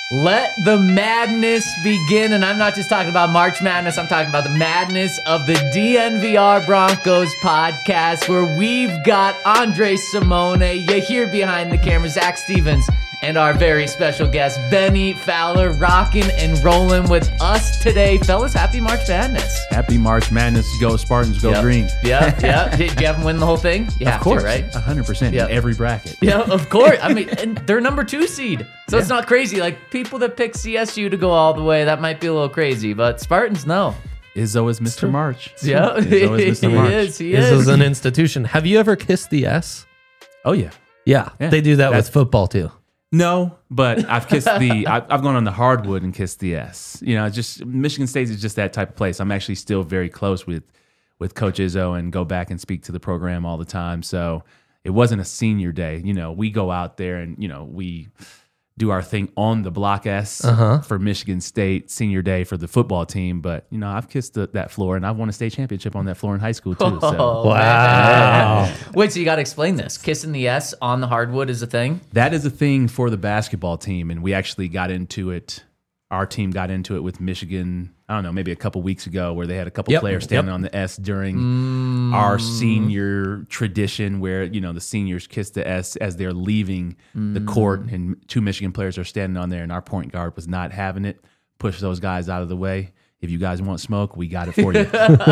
Let the madness begin. And I'm not just talking about March Madness. I'm talking about the madness of the DNVR Broncos podcast, where we've got Andre Simone. You hear behind the camera, Zach Stevens, and our very special guest, Benny Fowler, rocking and rolling with us today. Fellas, happy March Madness. Happy March Madness. Go Spartans, go green. Yeah. Did you have them win the whole thing? You have of course, to, right? 100% in every bracket. Yeah, of course. I mean, and they're number 2 seed. So it's not crazy. Like, people that pick CSU to go all the way, that might be a little crazy. But Spartans, no. Izzo is Mr. March. Yeah, Izzo is Mr. March. He is. This is an institution. Have you ever kissed the S? Oh, yeah. Yeah. They do that with football, too. No, but I've kissed I've gone on the hardwood and kissed the S. You know, just Michigan State is just that type of place. I'm actually still very close with Coach Izzo and go back and speak to the program all the time. So it wasn't a senior day. You know, we go out there and, you know, we do our thing on the Block S for Michigan State senior day for the football team. But, you know, I've kissed that floor, and I've won a state championship on that floor in high school, too. So. Wow. Wait, so you got to explain this. Kissing the S on the hardwood is a thing? That is a thing for the basketball team, and we actually got into it. Our team got into it with Michigan, I don't know, maybe a couple weeks ago, where they had a couple players standing on the S during our senior tradition, where, you know, the seniors kiss the S as they're leaving the court, and 2 Michigan players are standing on there, and our point guard was not having it. Push those guys out of the way. If you guys want smoke, we got it for you.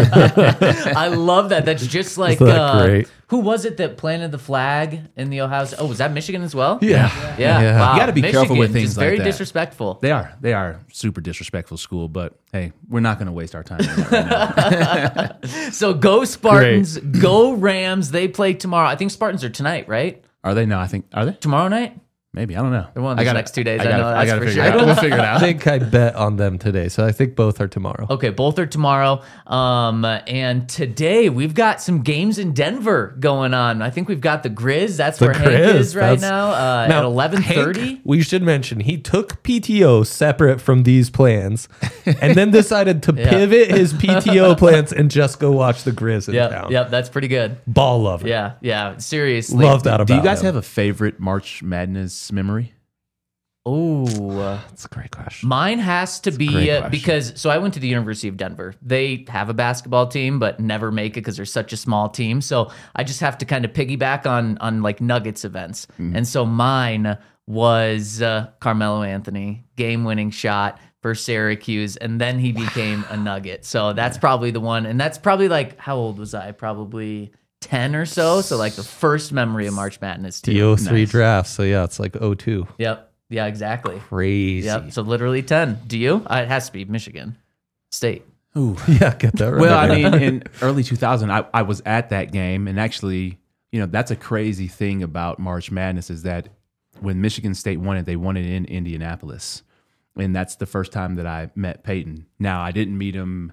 I love that. That's just like, great? Who was it that planted the flag in the Ohio State? Oh, was that Michigan as well? Yeah. Wow. You gotta be careful with things just like very that. disrespectful. They are super disrespectful school, but hey, we're not going to waste our time on that right now. So go Spartans, go Rams. They play tomorrow. I think Spartans are tonight, right? Are they? No, are they? Tomorrow night? Maybe, I don't know. They're one of the next 2 days. I know I that's gotta for figure sure. it out. We'll figure it out. I think I bet on them today, so I think both are tomorrow. Okay, both are tomorrow. And today we've got some games in Denver going on. I think we've got the Grizz. That's where Hank is right now, at 11:30. We should mention he took PTO separate from these plans, and then decided to pivot his PTO plans and just go watch the Grizz in town. Yep, that's pretty good. Ball lover. Yeah, seriously. Love that about Do you guys him. have a favorite March Madness memory? Oh, That's a great question. mine has to be great question. because so I went to the University of Denver. They have a basketball team, but never make it because they're such a small team. So I just have to kind of piggyback on like Nuggets events. And so mine was Carmelo Anthony, game-winning shot for Syracuse, and then he became a Nugget. So that's probably the one. And that's probably like, how old was I? Probably 10 or so. So like the first memory of March Madness too. The 03 draft, so yeah, it's like 02. Yep. Yeah, exactly. Crazy. Yep. So literally 10. Do you? It has to be Michigan State. Ooh. Yeah, get that right. Well, I mean, in early 2000, I was at that game, and actually, you know, that's a crazy thing about March Madness is that when Michigan State won it, they won it in Indianapolis, and that's the first time that I met Peyton. Now, I didn't meet him.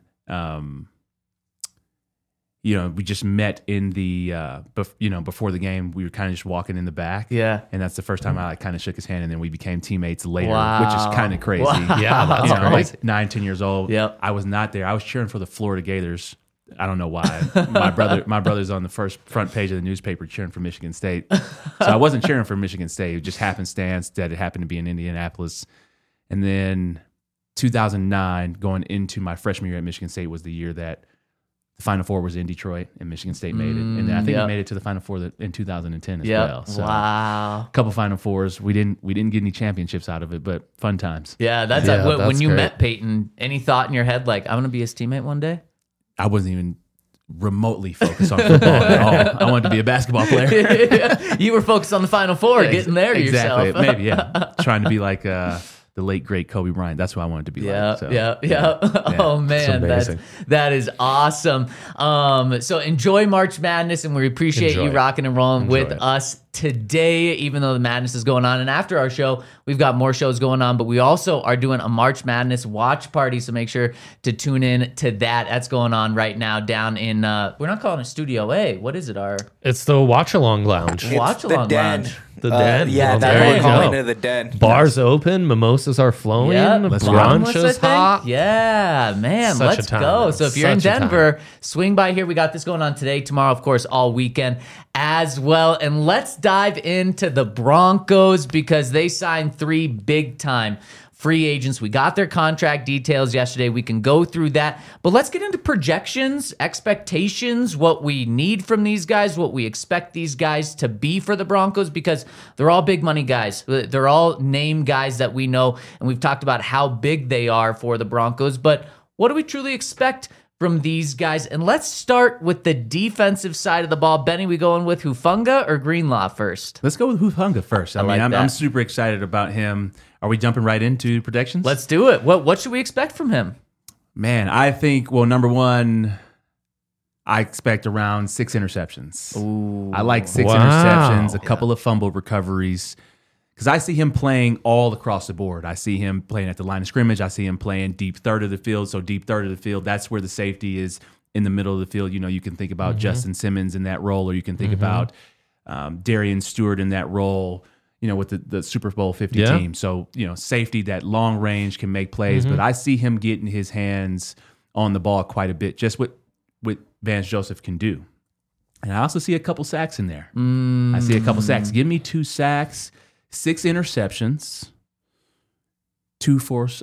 You know, we just met in the, before the game. We were kind of just walking in the back. Yeah. And that's the first time I kind of shook his hand, and then we became teammates later, Wow. which is kind of crazy. Wow. Yeah, that's You know, crazy. like 9, 10 years old. Yep. I was not there. I was cheering for the Florida Gators. I don't know why. My brother's on the front page of the newspaper cheering for Michigan State. So I wasn't cheering for Michigan State. It just happenstance that it happened to be in Indianapolis. And then 2009, going into my freshman year at Michigan State, was the year that the Final Four was in Detroit, and Michigan State made it. And then I think we made it to the Final Four in 2010 as well. So Wow. a couple Final Fours. We didn't get any championships out of it, but fun times. Yeah, that's Yeah, when that's you great. met Peyton, any thought in your head like, I'm going to be his teammate one day? I wasn't even remotely focused on football at all. I wanted to be a basketball player. You were focused on the Final Four, getting there exactly. yourself. Maybe, yeah. Trying to be like the late great Kobe Bryant. That's who I wanted to be like. So, Yeah. Oh man, amazing. that is awesome. So enjoy March Madness, and we appreciate you Enjoy. rocking and rolling with it. us today, even though the madness is going on. And after our show, we've got more shows going on, but we also are doing a March Madness watch party. So make sure to tune in to that. That's going on right now down in, we're not calling it Studio A. What is it? Our It's the Watch Along Lounge. watch along den. lounge. The den? Yeah, Well, that's there what you we're calling go. it, the den. Bars open, mimosas are flowing, Yeah, let's bottomless, brunch I is think. hot. Yeah, man, Such a let's time, go. man. So if you're in Such a Denver, swing by here. We got this going on today, tomorrow, of course, all weekend as well. And let's dive into the Broncos because they signed 3 big-time free agents. We got their contract details yesterday. We can go through that. But let's get into projections, expectations, what we need from these guys, what we expect these guys to be for the Broncos, because they're all big money guys. They're all name guys that we know, and we've talked about how big they are for the Broncos. But what do we truly expect from these guys? And let's start with the defensive side of the ball. Benny, we going with Hufanga or Greenlaw first? Let's go with Hufanga first. I like that. I'm super excited about him. Are we jumping right into predictions? Let's do it. What should we expect from him? Man, I think, well, number one, I expect around 6 interceptions. Ooh. I like 6 Wow. interceptions, a couple of fumble recoveries, because I see him playing all across the board. I see him playing at the line of scrimmage. I see him playing deep third of the field. So deep third of the field, that's where the safety is in the middle of the field. You know, you can think about Justin Simmons in that role, or you can think about Darian Stewart in that role, you know, with the Super Bowl 50 team. So, you know, safety, that long range can make plays, but I see him getting his hands on the ball quite a bit, just what Vance Joseph can do. And I also see a couple sacks in there. I see a couple sacks. Give me 2 sacks, 6 interceptions, 2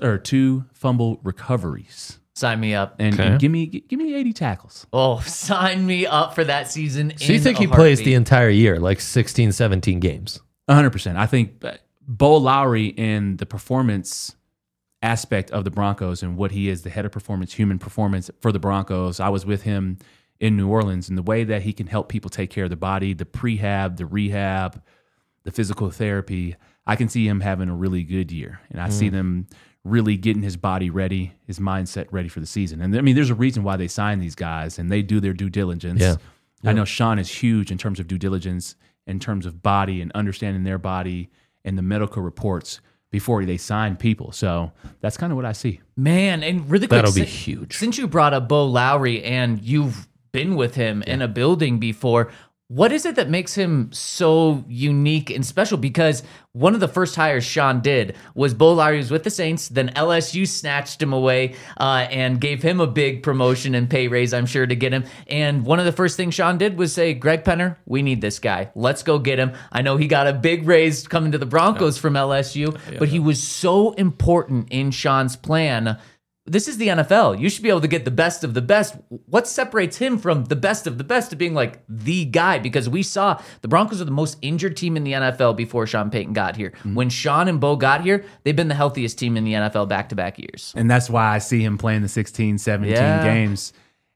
fumble recoveries. Sign me up. And give me 80 tackles. Oh, sign me up for that season. So you think he plays the entire year, like 16, 17 games? 100%. I think Bo Lowry in the performance aspect of the Broncos and what he is, the head of performance, human performance for the Broncos. I was with him in New Orleans, and the way that he can help people take care of the body, the prehab, the rehab, the physical therapy, I can see him having a really good year. And I see them really getting his body ready, his mindset ready for the season. And I mean, there's a reason why they sign these guys, and they do their due diligence. Yeah. I know Sean is huge in terms of due diligence, in terms of body and understanding their body and the medical reports before they sign people. So that's kind of what I see. Man, and really quick, That'll be huge. Since you brought up Bo Lowry and you've been with him in a building before, what is it that makes him so unique and special? Because one of the first hires Sean did was Bo Lowry was with the Saints, then LSU snatched him away and gave him a big promotion and pay raise, I'm sure, to get him. And one of the first things Sean did was say, Greg Penner, we need this guy. Let's go get him. I know he got a big raise coming to the Broncos from LSU, but he was so important in Sean's plan. This is the NFL. You should be able to get the best of the best. What separates him from the best of the best to being like the guy? Because we saw the Broncos are the most injured team in the NFL before Sean Payton got here. When Sean and Bo got here, they've been the healthiest team in the NFL back-to-back years. And that's why I see him playing the 16, 17 games.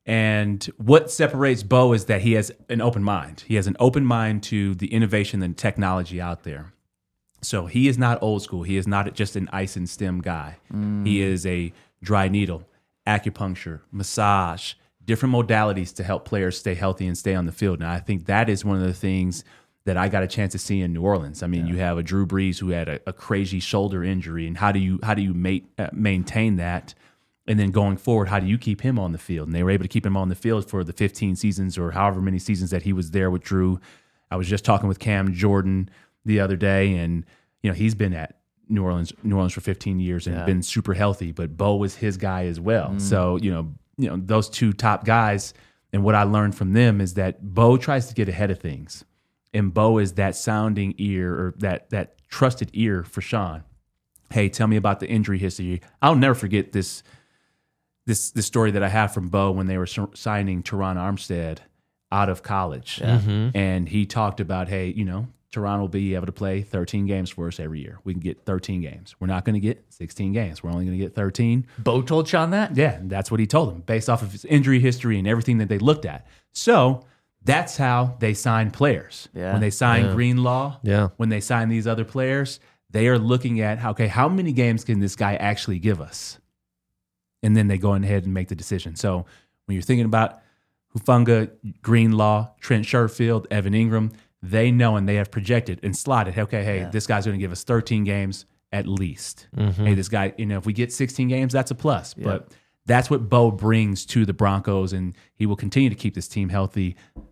And what separates Bo is that he has an open mind. He has an open mind to the innovation and technology out there. So he is not old school. He is not just an ice and stem guy. He is a dry needle, acupuncture, massage, different modalities to help players stay healthy and stay on the field. And I think that is one of the things that I got a chance to see in New Orleans. I mean, you have a Drew Brees who had a crazy shoulder injury, and how do you maintain that? And then going forward, how do you keep him on the field? And they were able to keep him on the field for the 15 seasons or however many seasons that he was there with Drew. I was just talking with Cam Jordan the other day, and you know he's been at New Orleans for 15 years and been super healthy, but Bo was his guy as well. So, you know, those 2 top guys, and what I learned from them is that Bo tries to get ahead of things. And Bo is that sounding ear, or that trusted ear for Sean. Hey, tell me about the injury history. I'll never forget this story that I have from Bo when they were signing Teron Armstead out of college. And he talked about, hey, you know, Toronto will be able to play 13 games for us every year. We can get 13 games. We're not going to get 16 games. We're only going to get 13. Bo told Sean that? Yeah, that's what he told him based off of his injury history and everything that they looked at. So that's how they sign players. Yeah. When they sign Greenlaw, Yeah. when they sign these other players, they are looking at, okay, how many games can this guy actually give us? And then they go ahead and make the decision. So when you're thinking about Hufanga, Greenlaw, Trent Sherfield, Evan Ingram, they know and they have projected and slotted, okay, this guy's going to give us 13 games at least. Hey, this guy, you know, if we get 16 games, that's a plus. But that's what Bo brings to the Broncos, and he will continue to keep this team healthy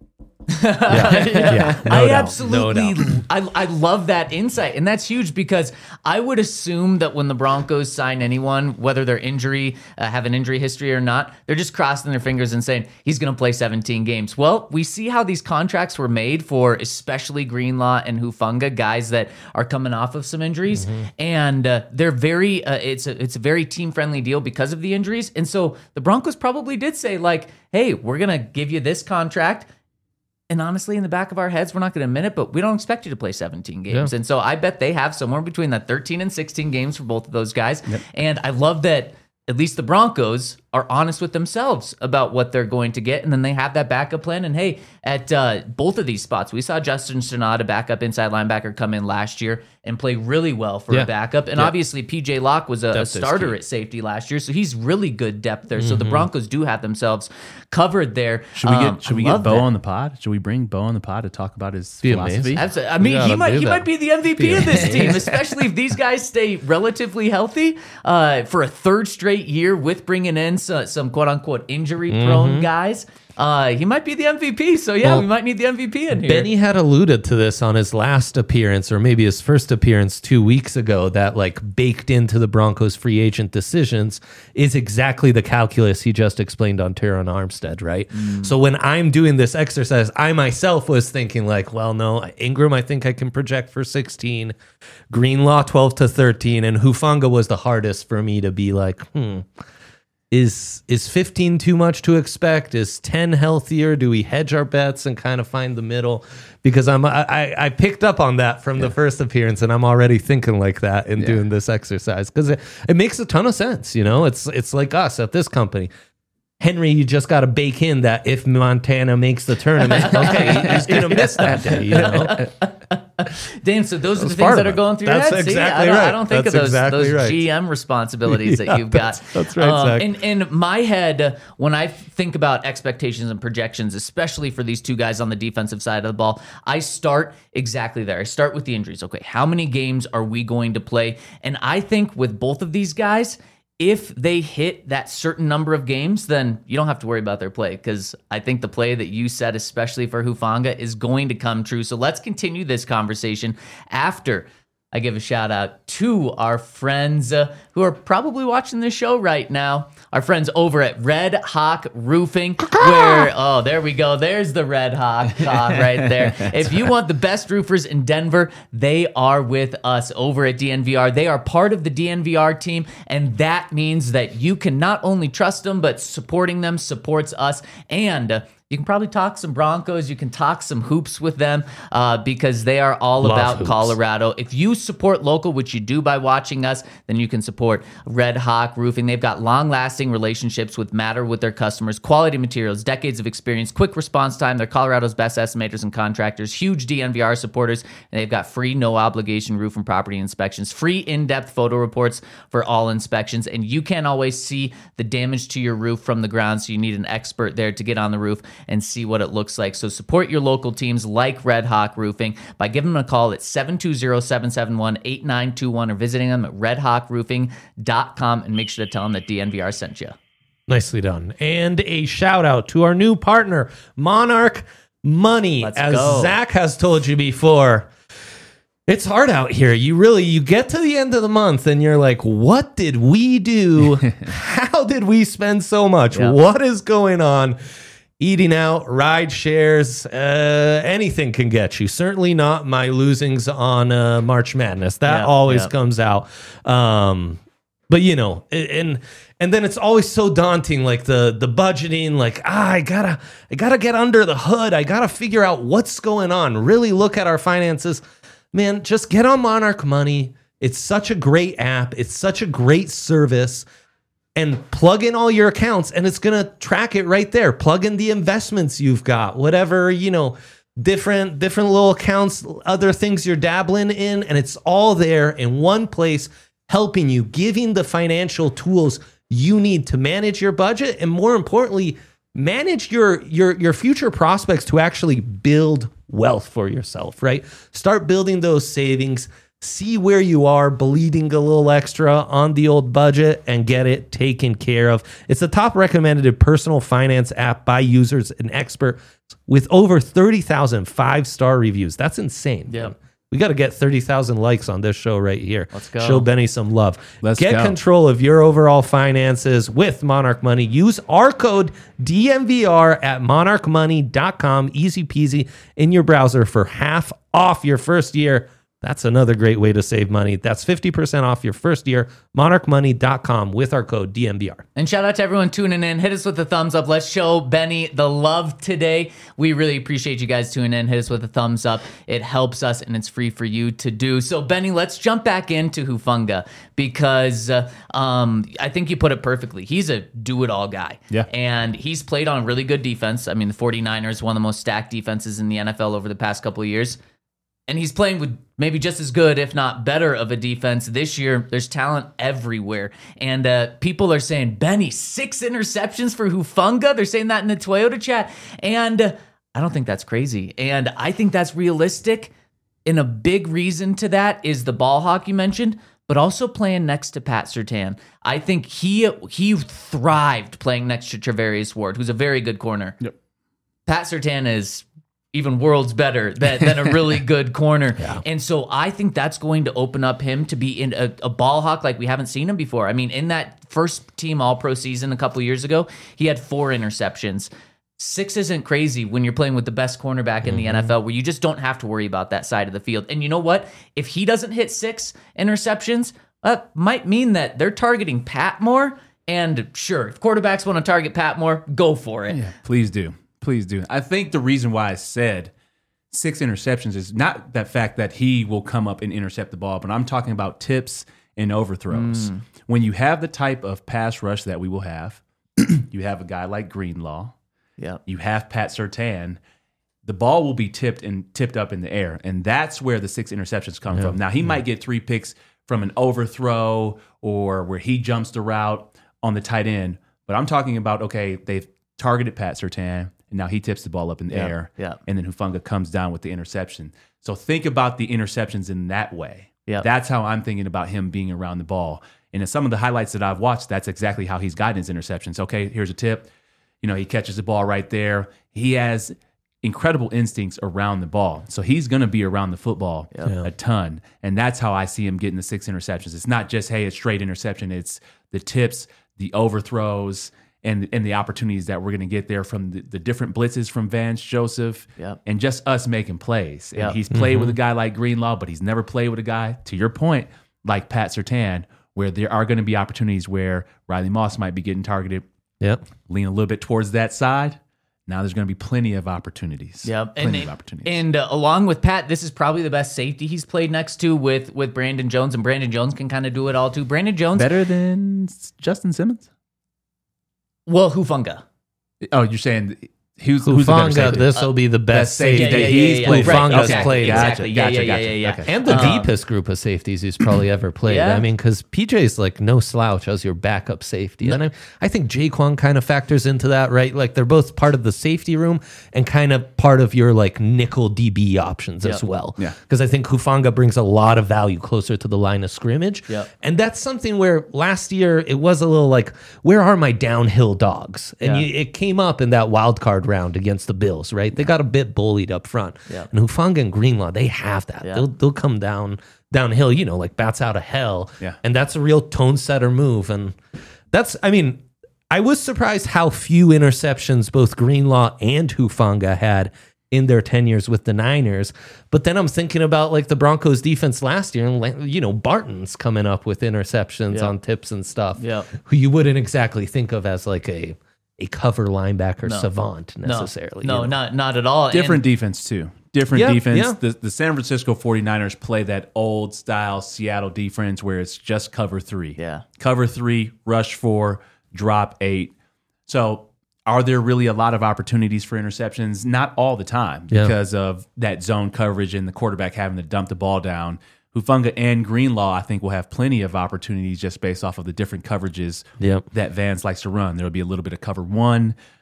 Yeah, no I doubt, absolutely, no doubt. I love that insight, and that's huge because I would assume that when the Broncos sign anyone, whether they're have an injury history or not, they're just crossing their fingers and saying he's going to play 17 games. Well, we see how these contracts were made for especially Greenlaw and Hufanga, guys that are coming off of some injuries, and they're very, it's a very team friendly deal because of the injuries, and so the Broncos probably did say like, hey, we're going to give you this contract. And honestly, in the back of our heads, we're not going to admit it, but we don't expect you to play 17 games. Yeah. And so I bet they have somewhere between that 13 and 16 games for both of those guys. Yep. And I love that at least the Broncos are honest with themselves about what they're going to get. And then they have that backup plan. And hey, at both of these spots, we saw Justin Sonata, backup inside linebacker, come in last year and play really well for a backup. And obviously, PJ Locke was a starter at safety last year. So he's really good depth there. So the Broncos do have themselves covered there. Should we get Bo on the pod? Should we bring Bo on the pod to talk about his philosophy? Absolutely. I mean, he might be the MVP of this team, especially if these guys stay relatively healthy for a third straight year with bringing in some quote-unquote injury-prone guys. He might be the MVP, so we might need the MVP in here. Benny had alluded to this on his last appearance, or maybe his first appearance 2 weeks ago, that like baked into the Broncos free agent decisions is exactly the calculus he just explained on Teron Armstead, right? So when I'm doing this exercise, I myself was thinking like, well, no, Ingram, I think I can project for 16, Greenlaw 12 to 13, and Hufanga was the hardest for me to be like, Is 15 too much to expect? Is 10 healthier? Do we hedge our bets and kind of find the middle? Because I picked up on that from the first appearance, and I'm already thinking like that in doing this exercise because it makes a ton of sense. You know, it's like us at this company. Henry, you just got to bake in that if Montana makes the tournament, okay, he's going to miss that day, you know? Damn, so those are the things that are going through your head. Exactly right. I don't think of those GM responsibilities that you've got. That's right, Zach. In my head, when I think about expectations and projections, especially for these two guys on the defensive side of the ball, I start exactly there. I start with the injuries. Okay, how many games are we going to play? And I think with both of these guys, if they hit that certain number of games, then you don't have to worry about their play because I think the play that you said, especially for Hufanga, is going to come true. So let's continue this conversation after I give a shout out to our friends who are probably watching this show right now. Our friends over at Red Hawk Roofing, where, there we go. There's the Red Hawk right there. If you want the best roofers in Denver, they are with us over at DNVR. They are part of the DNVR team, and that means that you can not only trust them, but supporting them supports us. And you can probably talk some Broncos. You can talk some hoops with them because they are all about hoops. Colorado. If you support local, which you do by watching us, then you can support Red Hawk Roofing. They've got long-lasting relationships with their customers, quality materials, decades of experience, quick response time. They're Colorado's best estimators and contractors, huge DNVR supporters, and they've got free no-obligation roof and property inspections, free in-depth photo reports for all inspections, and you can't always see the damage to your roof from the ground, so you need an expert there to get on the roof and see what it looks like. So support your local teams like Red Hawk Roofing by giving them a call at 720-771-8921 or visiting them at redhawkroofing.com and make sure to tell them that DNVR sent you. Nicely done. And a shout out to our new partner, Monarch Money. Let's As go. Zach has told you before, it's hard out here. You get to the end of the month and you're like, what did we do? How did we spend so much? Yep. What is going on? Eating out, ride shares, anything can get you. Certainly not my losings on March Madness. That always comes out. But you know, and then it's always so daunting, like the budgeting, like I gotta get under the hood. I gotta figure out what's going on. Really look at our finances. Man, just get on Monarch Money. It's such a great app. It's such a great service. And plug in all your accounts, and it's going to track it right there. Plug in the investments you've got, whatever, you know, different little accounts, other things you're dabbling in, and it's all there in one place, helping you, giving the financial tools you need to manage your budget, and more importantly, manage your future prospects to actually build wealth for yourself, right? Start building those savings. see where you are bleeding a little extra on the old budget and get it taken care of. It's the top recommended personal finance app by users and experts with over 30,000 5-star reviews. That's insane. Yeah. We got to get 30,000 likes on this show right here. Let's go. Show Benny some love. Let's get go. control of your overall finances with Monarch Money. Use our code DMVR at monarchmoney.com. Easy peasy in your browser for half off your first year. That's another great way to save money. That's 50% off your first year. monarchmoney.com with our code DMVR. And shout out to everyone tuning in. Hit us with a thumbs up. Let's show Benny the love today. We really appreciate you guys tuning in. Hit us with a thumbs up. It helps us, and it's free for you to do. So, Benny, let's jump back into Hufanga because I think you put it perfectly. He's a do-it-all guy. Yeah. And he's played on really good defense. I mean, the 49ers, one of the most stacked defenses in the NFL over the past couple of years. And he's playing with maybe just as good, if not better, of a defense this year. There's talent everywhere. And people are saying, Benny, 6 interceptions for Hufanga? They're saying that in the Toyota chat. And I don't think that's crazy. And I think that's realistic. And a big reason to that is the ball hawk you mentioned, but also playing next to Pat Surtain. I think he thrived playing next to Travarius Ward, who's a very good corner. Yep. Pat Surtain is even worlds better than a really good corner. Yeah. And so I think that's going to open up him to be in a ball hawk like we haven't seen him before. I mean, in that first team All-Pro season a couple years ago, he had 4 interceptions. 6 isn't crazy when you're playing with the best cornerback in the NFL, where you just don't have to worry about that side of the field. And you know what? If he doesn't hit 6 interceptions, that might mean that they're targeting Pat more. And sure, if quarterbacks want to target Pat more, go for it. Yeah, please do. Please do. I think the reason why I said 6 interceptions is not that fact that he will come up and intercept the ball, but I'm talking about tips and overthrows. When you have the type of pass rush that we will have, you have a guy like Greenlaw, you have Pat Surtain, the ball will be tipped up in the air, and that's where the 6 interceptions come from. Now, he might get 3 picks from an overthrow or where he jumps the route on the tight end, but I'm talking about, okay, they've targeted Pat Surtain, and now he tips the ball up in the air, and then Hufanga comes down with the interception. So think about the interceptions in that way. That's how I'm thinking about him being around the ball. And in some of the highlights that I've watched, that's exactly how he's gotten his interceptions. Okay, here's a tip. You know, he catches the ball right there. He has incredible instincts around the ball. So he's going to be around the football a ton. And that's how I see him getting the 6 interceptions. It's not just, hey, it's straight interception. It's the tips, the overthrows, and the opportunities that we're going to get there from the different blitzes from Vance Joseph and just us making plays. And he's played with a guy like Greenlaw, but he's never played with a guy, to your point, like Pat Surtain, where there are going to be opportunities where Riley Moss might be getting targeted. Lean a little bit towards that side. Now there's going to be plenty of opportunities. Plenty of opportunities. And along with Pat, this is probably the best safety he's played next to with Brandon Jones, and Brandon Jones can kind of do it all too. Brandon Jones. Better than Justin Simmons? Well, Hufanga. Oh, you're saying who's the better Hufanga, safety? this will be the best safety that he's played. Hufanga's played. Gotcha. And the deepest group of safeties he's probably ever played. I mean, because PJ's like no slouch as your backup safety. And I think Jaquan kind of factors into that, right? Like they're both part of the safety room and kind of part of your like nickel DB options as well. Because I think Hufanga brings a lot of value closer to the line of scrimmage. And that's something where last year it was a little like, where are my downhill dogs? And it came up in that wild card round against the Bills, right? They got a bit bullied up front. And Hufanga and Greenlaw, they have that. They'll come downhill, you know, like bats out of hell. And that's a real tone setter move. And that's, I mean, I was surprised how few interceptions both Greenlaw and Hufanga had in their tenures with the Niners. But then I'm thinking about like the Broncos defense last year, and you know, Barton's coming up with interceptions on tips and stuff, who you wouldn't exactly think of as like a cover linebacker savant necessarily. No, not at all. Different defense too. Different defense. The San Francisco 49ers play that old style Seattle defense where it's just cover 3. Cover 3, rush 4, drop 8. So are there really a lot of opportunities for interceptions? Not all the time because of that zone coverage and the quarterback having to dump the ball down. Hufanga and Greenlaw, I think, will have plenty of opportunities just based off of the different coverages that Vance likes to run. There will be a little bit of cover 1.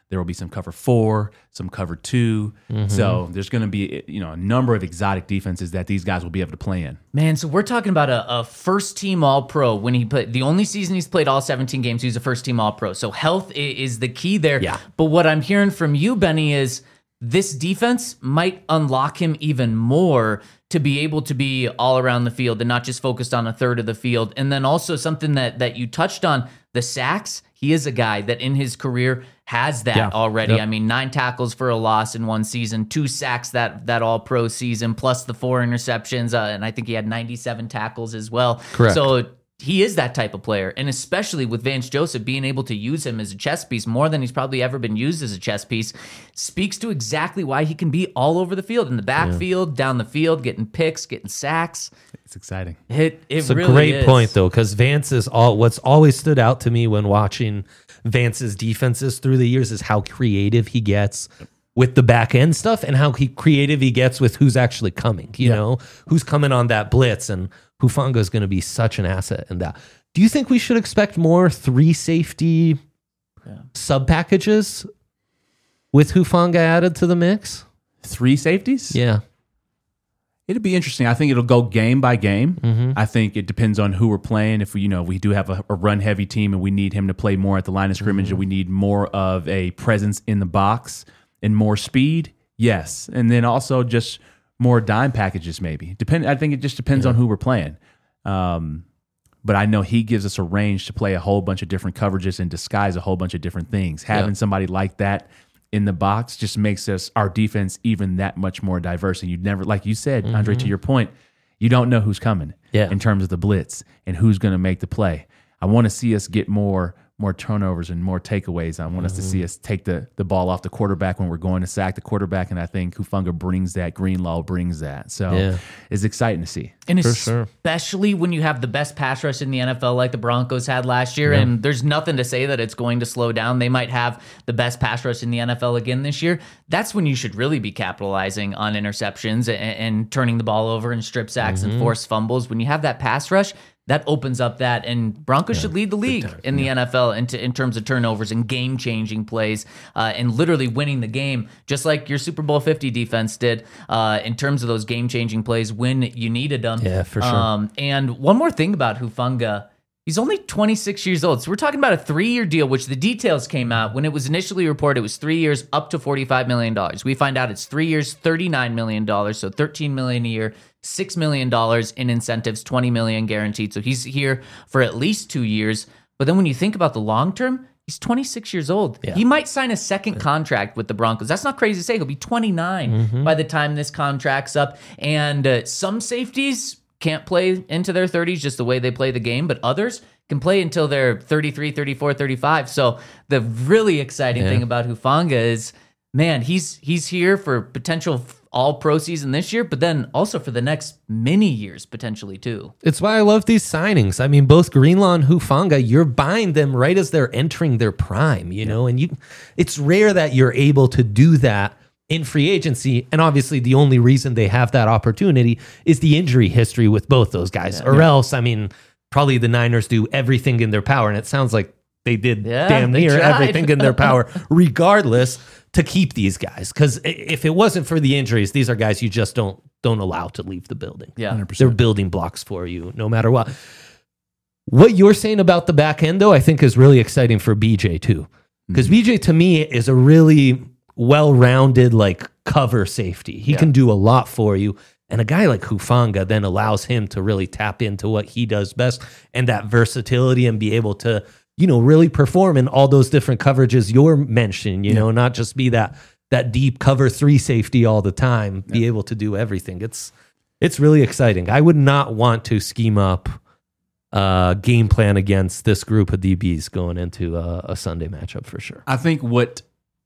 There will be some cover 4, some cover 2. So there's going to be a number of exotic defenses that these guys will be able to play in. Man, so we're talking about a first-team All-Pro. When he played, the only season he's played all 17 games, he was a first-team All-Pro. So health is the key there. Yeah. But what I'm hearing from you, Benny, is this defense might unlock him even more to be able to be all around the field and not just focused on a third of the field. And then also something that you touched on, the sacks. He is a guy that in his career has that already. Yep. I mean, 9 tackles for a loss in one season, 2 sacks that all-pro season, plus the 4 interceptions, and I think he had 97 tackles as well. Correct. So he is that type of player, and especially with Vance Joseph being able to use him as a chess piece more than he's probably ever been used as a chess piece, speaks to exactly why he can be all over the field, in the backfield, down the field, getting picks, getting sacks. It's exciting. It's a great point, though, because Vance is what's always stood out to me when watching Vance's defenses through the years is how creative he gets with the back end stuff and how creative he gets with who's actually coming, you know, who's coming on that blitz. And Hufanga is going to be such an asset in that. Do you think we should expect more 3 safety sub packages with Hufanga added to the mix? 3 safeties? Yeah. It'll be interesting. I think it'll go game by game. I think it depends on who we're playing. If we do have a run heavy team and we need him to play more at the line of scrimmage, and we need more of a presence in the box and more speed, yes. And then also just more dime packages, maybe. I think it just depends on who we're playing. But I know he gives us a range to play a whole bunch of different coverages and disguise a whole bunch of different things. Having somebody like that in the box just makes our defense even that much more diverse. And you'd never, like you said, Andre, to your point, you don't know who's coming in terms of the blitz and who's going to make the play. I want to see us get more turnovers and more takeaways. I want us to see us take the ball off the quarterback when we're going to sack the quarterback, and I think Hufanga brings that. Greenlaw brings that. So it's exciting to see. And especially when you have the best pass rush in the NFL like the Broncos had last year, and there's nothing to say that it's going to slow down. They might have the best pass rush in the NFL again this year. That's when you should really be capitalizing on interceptions and turning the ball over and strip sacks and forced fumbles. When you have that pass rush, that opens up that, and Broncos should lead the league in the NFL in terms of turnovers and game-changing plays and literally winning the game, just like your Super Bowl 50 defense did in terms of those game-changing plays when you needed them. Yeah, for sure. And one more thing about Hufanga, he's only 26 years old. So we're talking about a 3-year deal, which the details came out. When it was initially reported, it was 3 years, up to $45 million. We find out it's 3 years, $39 million, so $13 million a year. $6 million in incentives, $20 million guaranteed. So he's here for at least 2 years. But then when you think about the long term, he's 26 years old. Yeah. He might sign a second contract with the Broncos. That's not crazy to say. He'll be 29 by the time this contract's up. And some safeties can't play into their 30s just the way they play the game, but others can play until they're 33, 34, 35. So the really exciting thing about Hufanga is, man, he's here for potential all-pro season this year, but then also for the next many years potentially too. It's why I love these signings. I mean, both Greenlaw and Hufanga, you're buying them right as they're entering their prime, you know, and it's rare that you're able to do that in free agency. And obviously the only reason they have that opportunity is the injury history with both those guys. Or else, I mean, probably the Niners do everything in their power. And it sounds like they did damn near everything in their power, regardless, to keep these guys. Because if it wasn't for the injuries, these are guys you just don't allow to leave the building. Yeah, 100%. They're building blocks for you no matter what. What you're saying about the back end, though, I think is really exciting for BJ too. Because BJ, to me, is a really well-rounded, like, cover safety. He can do a lot for you. And a guy like Hufanga then allows him to really tap into what he does best and that versatility and be able to, you know, really perform in all those different coverages you're mentioning, you know, not just be that deep cover 3 safety all the time, be able to do everything. It's really exciting. I would not want to scheme up game plan against this group of DBs going into a Sunday matchup for sure. I think what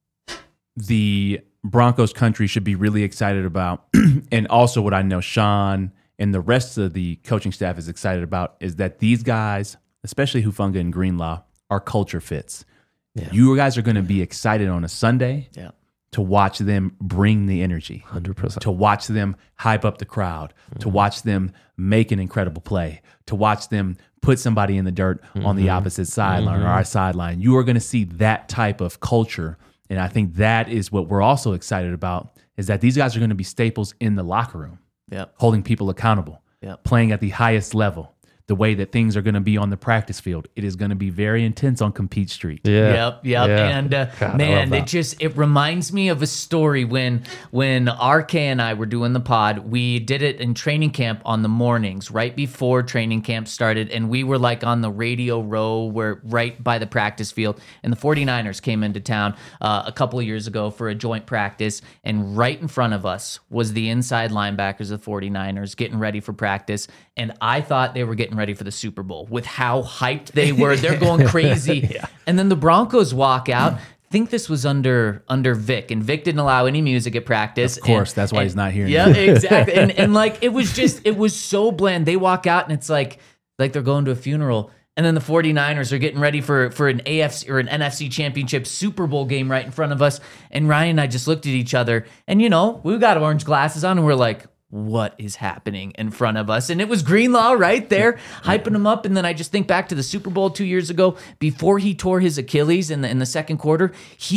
the Broncos country should be really excited about, and also what I know Sean and the rest of the coaching staff is excited about, is that these guys, especially Hufanga and Greenlaw, are culture fits. Yeah. You guys are going to be excited on a Sunday to watch them bring the energy, 100%. to watch them hype up the crowd, to watch them make an incredible play, to watch them put somebody in the dirt on the opposite sideline or our sideline. You are going to see that type of culture And I think that is what we're also excited about, is that these guys are going to be staples in the locker room, holding people accountable, playing at the highest level. The way that things are going to be on the practice field, it is going to be very intense on Compete Street. Yep. And man, it reminds me of a story when RK and I were doing the pod. We did it in training camp on the mornings, right before training camp started, and we were like on the radio row, where right by the practice field. And the 49ers came into town a couple of years ago for a joint practice, and right in front of us was the inside linebackers of the 49ers getting ready for practice. And I thought they were getting ready for the Super Bowl with how hyped they were. They're going crazy. And then the Broncos walk out. I think this was under Vic, and Vic didn't allow any music at practice. Of course, that's why he's not here. Yeah, exactly. And like it was so bland. They walk out and it's like they're going to a funeral. And then the 49ers are getting ready for an AFC or an NFC championship Super Bowl game right in front of us. And Ryan and I just looked at each other, and we got orange glasses on, and we're like, what is happening in front of us? And it was Greenlaw right there, hyping him up. And then I just think back to the Super Bowl 2 years ago, before he tore his Achilles in the second quarter.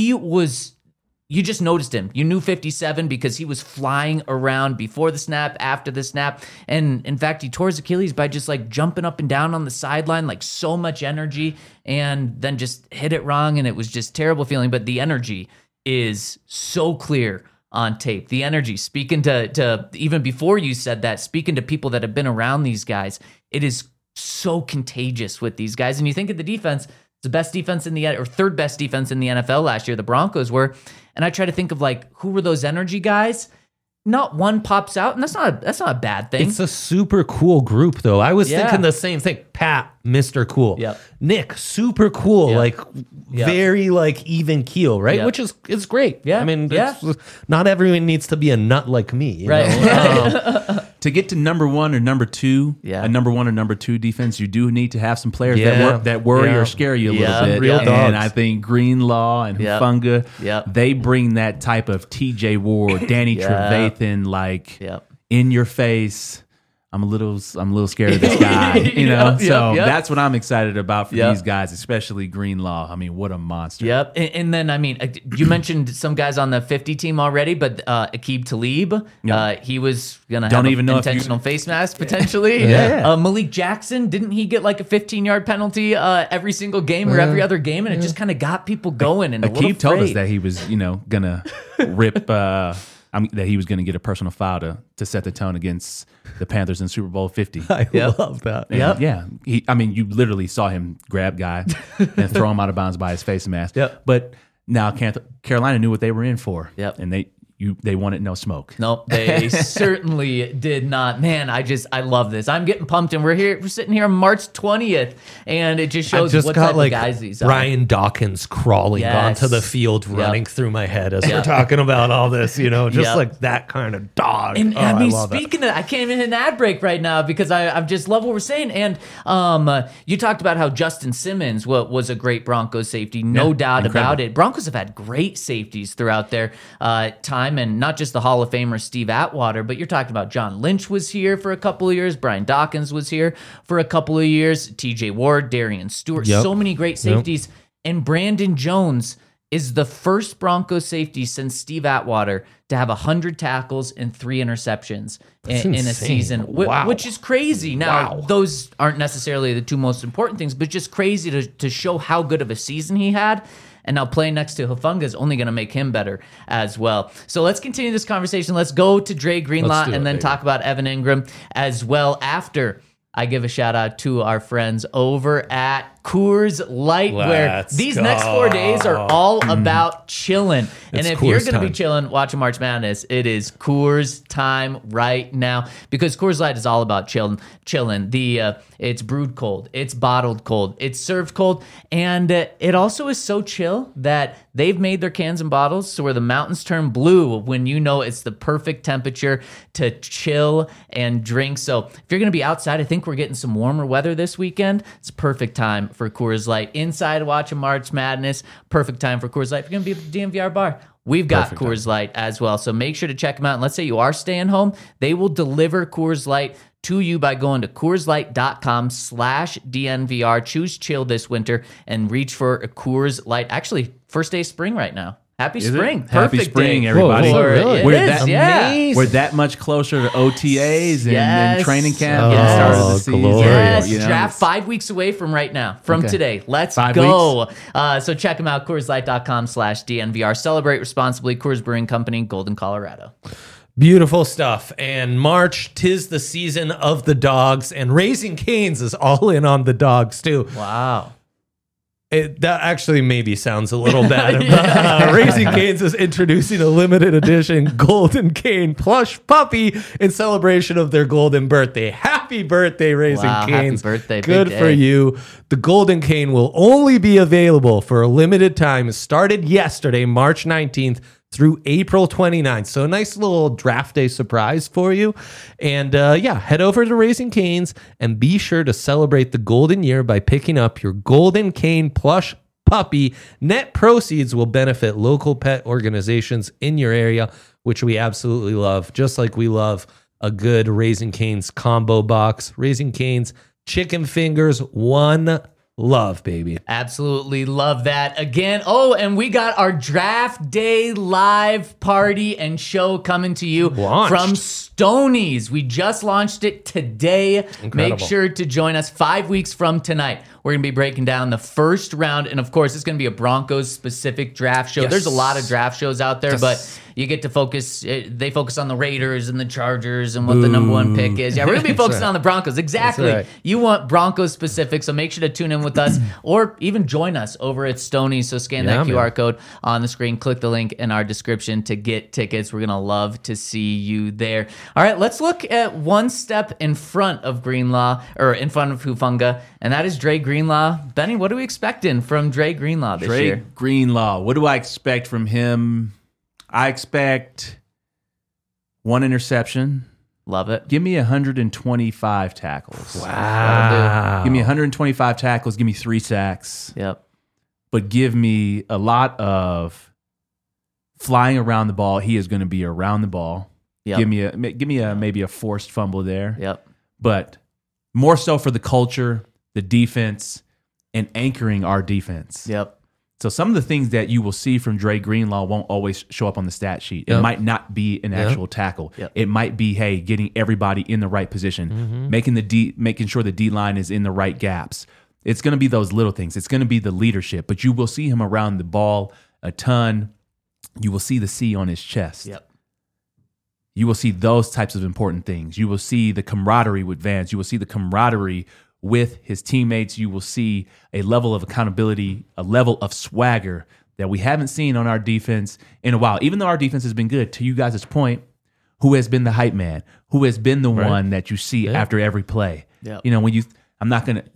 You just noticed him. You knew 57 because he was flying around before the snap, after the snap. And in fact, he tore his Achilles by just like jumping up and down on the sideline, like so much energy, and then just hit it wrong. And it was just terrible feeling. But the energy is so clear on tape. The energy, speaking to even before you said that, speaking to people that have been around these guys, it is so contagious with these guys. And you think of the defense, it's the best defense or third best defense in the NFL last year, the Broncos were. And I try to think of like, who were those energy guys? Not one pops out, and that's not a bad thing. It's a super cool group, though. I was thinking the same thing. Pat, Mr. Cool. Yep. Nick, super cool. Like very like even keel, right? Which is great. Yeah. I mean, not everyone needs to be a nut like me. You right. know? To get to number one or number two, a number one or number two defense, you do need to have some players that worry or scare you a little bit. Real dogs. And I think Greenlaw and Hufanga, they bring that type of TJ Ward, Danny Trevathan, like in your face. I'm a little scared of this guy, that's what I'm excited about for these guys, especially Greenlaw. I mean, what a monster. Yep. And then, I mean, you mentioned some guys on the 50 team already, but Aqib Talib, he was going to have an intentional face mask potentially. Malik Jackson, didn't he get like a 15-yard penalty every single game or every other game? And it just kind of got people going. And Aqib told us that he was, going to rip... that he was going to get a personal foul to set the tone against the Panthers in Super Bowl 50. I love that. Yeah. You literally saw him grab guy and throw him out of bounds by his face mask. But now Carolina knew what they were in for. And they wanted no smoke. Nope, they certainly did not. Man, I love this. I'm getting pumped, and we're sitting here on March 20th, and it just shows what type of guys these are. Ryan Dawkins crawling onto the field, running through my head as we're talking about all this, like that kind of dog. And I mean, speaking of, I can't even hit an ad break right now because I just love what we're saying. And you talked about how Justin Simmons was a great Broncos safety, no doubt about it. Broncos have had great safeties throughout their time. And not just the Hall of Famer Steve Atwater, but you're talking about John Lynch was here for a couple of years. Brian Dawkins was here for a couple of years. TJ Ward, Darian Stewart, so many great safeties. And Brandon Jones is the first Broncos safety since Steve Atwater to have 100 tackles and 3 interceptions in a season, which is crazy. Now, those aren't necessarily the two most important things, but just crazy to show how good of a season he had. And now playing next to Hufanga is only going to make him better as well. So let's continue this conversation. Let's go to Dre Greenlaw and then talk about Evan Ingram as well after I give a shout out to our friends over at Coors Light, where these next 4 days are all about chilling. And if you're going to be chilling watching March Madness, it is Coors time right now, because Coors Light is all about chilling. It's brewed cold, it's bottled cold, it's served cold, and it also is so chill that they've made their cans and bottles so where the mountains turn blue when it's the perfect temperature to chill and drink. So if you're going to be outside, I think we're getting some warmer weather this weekend. It's a perfect time for Coors Light. Inside watching March Madness, perfect time for Coors Light. If you're going to be at the DNVR bar, we've got Coors Light as well. So make sure to check them out. And let's say you are staying home, they will deliver Coors Light to you by going to CoorsLight.com/DNVR. Choose chill this winter and reach for a Coors Light. Actually, first day of spring right now. Happy Is it? spring. Happy Perfect spring, day. everybody. Whoa, really? It We're is, that yeah. amazing. We're that much closer to OTAs and Yes. training camp and Oh, the start of the season. glorious. Yes, You know, draft it's- 5 weeks away from right now, from Okay. today. Let's 5 go. So check them out, CoorsLight.com/DNVR. Celebrate responsibly. Coors Brewing Company, Golden, Colorado. Beautiful stuff. And March, 'tis the season of the dogs, and Raising Cane's is all in on the dogs too. Wow. That actually maybe sounds a little bad. Raising Cane's is introducing a limited edition Golden Cane plush puppy in celebration of their golden birthday. Happy birthday, Raising Wow, happy Cane's. birthday, big Good day. for you. The Golden Cane will only be available for a limited time. It started yesterday, March 19th. Through April 29th. So a nice little draft day surprise for you. And head over to Raising Cane's and be sure to celebrate the golden year by picking up your Golden Cane plush puppy. Net proceeds will benefit local pet organizations in your area, which we absolutely love, just like we love a good Raising Cane's combo box. Raising Cane's chicken fingers, one love, baby. Absolutely love that. Again, and we got our draft day live party and show coming to you Launched. from Stoney's. We just launched it today. Incredible. Make sure to join us 5 weeks from tonight. We're going to be breaking down the first round. And of course, it's going to be a Broncos specific draft show. Yes. There's a lot of draft shows out there, Yes. but you get to focus. They focus on the Raiders and the Chargers and what the number one pick is. Yeah, we're going to be focusing on the Broncos. Exactly. right. You want Broncos specific, so make sure to tune in with us or even join us over at Stoney's. So scan that Yeah, QR man. code on the screen, click the link in our description to get tickets. We're going to love to see you there. All right, let's look at one step in front of Greenlaw, or in front of Hufunga, and that is Dre Greenlaw. Benny, what are we expecting from Dre Greenlaw this Dre year? Greenlaw. What do I expect from him? I expect one interception. Love it. Give me 125 tackles. Wow. Give me 125 tackles. Give me 3 sacks. Yep. But give me a lot of flying around the ball. He is going to be around the ball. Yep. Give me a maybe a forced fumble there. Yep. But more so for the culture, the defense, and anchoring our defense. Yep. So some of the things that you will see from Dre Greenlaw won't always show up on the stat sheet. It Yep. might not be an actual tackle. Yep. It might be, hey, getting everybody in the right position, making sure the D line is in the right gaps. It's going to be those little things. It's going to be the leadership, but you will see him around the ball a ton. You will see the C on his chest. Yep. You will see those types of important things. You will see the camaraderie with Vance. You will see the camaraderie with his teammates. You will see a level of accountability, a level of swagger that we haven't seen on our defense in a while. Even though our defense has been good, to you guys' point, who has been the hype man? Who has been the one that you see after every play? Yep. You know, I'm not going to,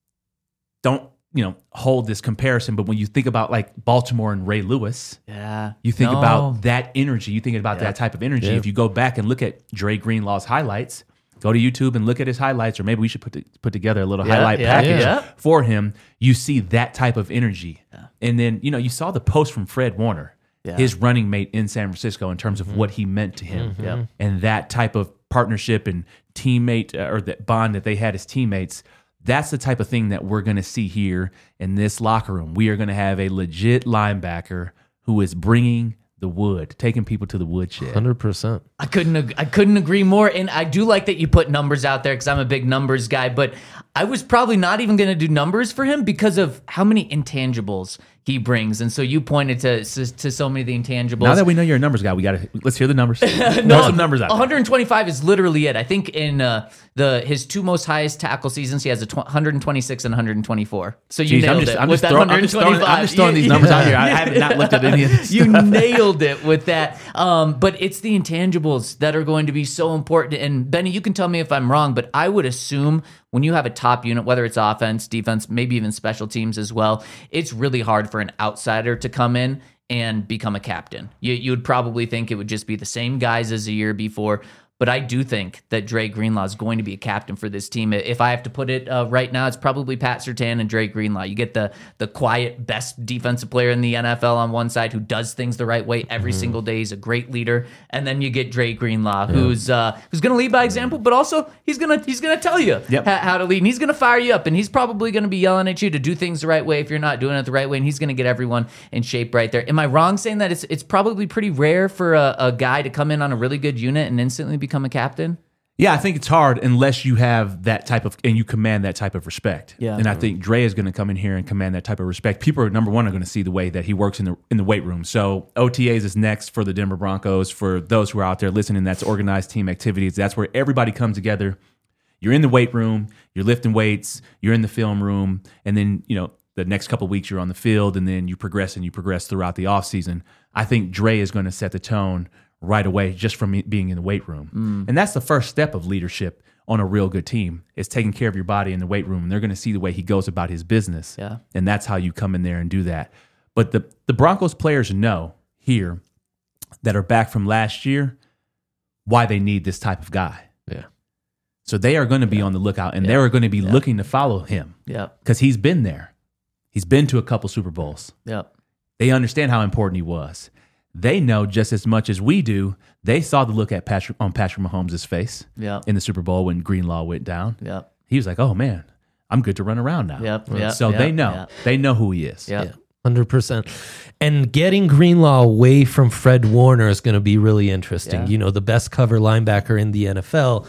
don't, hold this comparison, but when you think about like Baltimore and Ray Lewis, Yeah. you think No. about that energy. You think about Yeah. that type of energy. Yeah. If you go back and look at Dre Greenlaw's highlights, go to YouTube and look at his highlights, or maybe we should put together a little highlight package for him. You see that type of energy. And then, you saw the post from Fred Warner, his running mate in San Francisco, in terms of what he meant to him. Yep. And that type of partnership and teammate or that bond that they had as teammates. That's the type of thing that we're going to see here in this locker room. We are going to have a legit linebacker who is bringing the wood, taking people to the woodshed. 100%. I couldn't agree more. And I do like that you put numbers out there because I'm a big numbers guy, but I was probably not even going to do numbers for him because of how many intangibles he brings. And so you pointed to so many of the intangibles. Now that we know you're a numbers guy, let's hear the numbers. Throw some numbers out. 125 is literally it. I think in his two most highest tackle seasons, he has 126 and 124. So you Jeez, nailed it with that 125. I'm just throwing these numbers out here. I haven't not looked at any of this. You nailed it with that. But it's the intangibles that are going to be so important. And Benny, you can tell me if I'm wrong, but I would assume when you have a top unit, whether it's offense, defense, maybe even special teams as well, it's really hard for an outsider to come in and become a captain. You would probably think it would just be the same guys as the year before. But I do think that Dre Greenlaw is going to be a captain for this team. If I have to put it right now, it's probably Pat Surtain and Dre Greenlaw. You get the quiet, best defensive player in the NFL on one side who does things the right way every single day. He's a great leader. And then you get Dre Greenlaw, who's going to lead by example, but also he's going to tell you how to lead. And he's going to fire you up. And he's probably going to be yelling at you to do things the right way if you're not doing it the right way. And he's going to get everyone in shape right there. Am I wrong saying that it's probably pretty rare for a guy to come in on a really good unit and instantly become a captain? Yeah, I think it's hard unless you have that type of, and you command that type of respect. Yeah. And I think Dre is going to come in here and command that type of respect. People are, number one, are going to see the way that he works in the weight room. So OTAs is next for the Denver Broncos. For those who are out there listening, that's organized team activities. That's where everybody comes together. You're in the weight room, you're lifting weights, you're in the film room, and then, the next couple of weeks you're on the field, and then you progress throughout the offseason. I think Dre is going to set the tone right away just from being in the weight room. And that's the first step of leadership on a real good team, is taking care of your body in the weight room. And they're going to see the way he goes about his business. Yeah. And that's how you come in there and do that. But the Broncos players know here that are back from last year why they need this type of guy. Yeah. So they are going to be on the lookout, and they're going to be looking to follow him. Yeah. Because he's been there. He's been to a couple Super Bowls. Yeah. They understand how important he was. They know just as much as we do. They saw the look on Patrick Mahomes' face in the Super Bowl when Greenlaw went down. Yeah. He was like, oh, man, I'm good to run around now. They know. Yeah. They know who he is. Yeah. 100%. And getting Greenlaw away from Fred Warner is going to be really interesting. Yeah. The best cover linebacker in the NFL.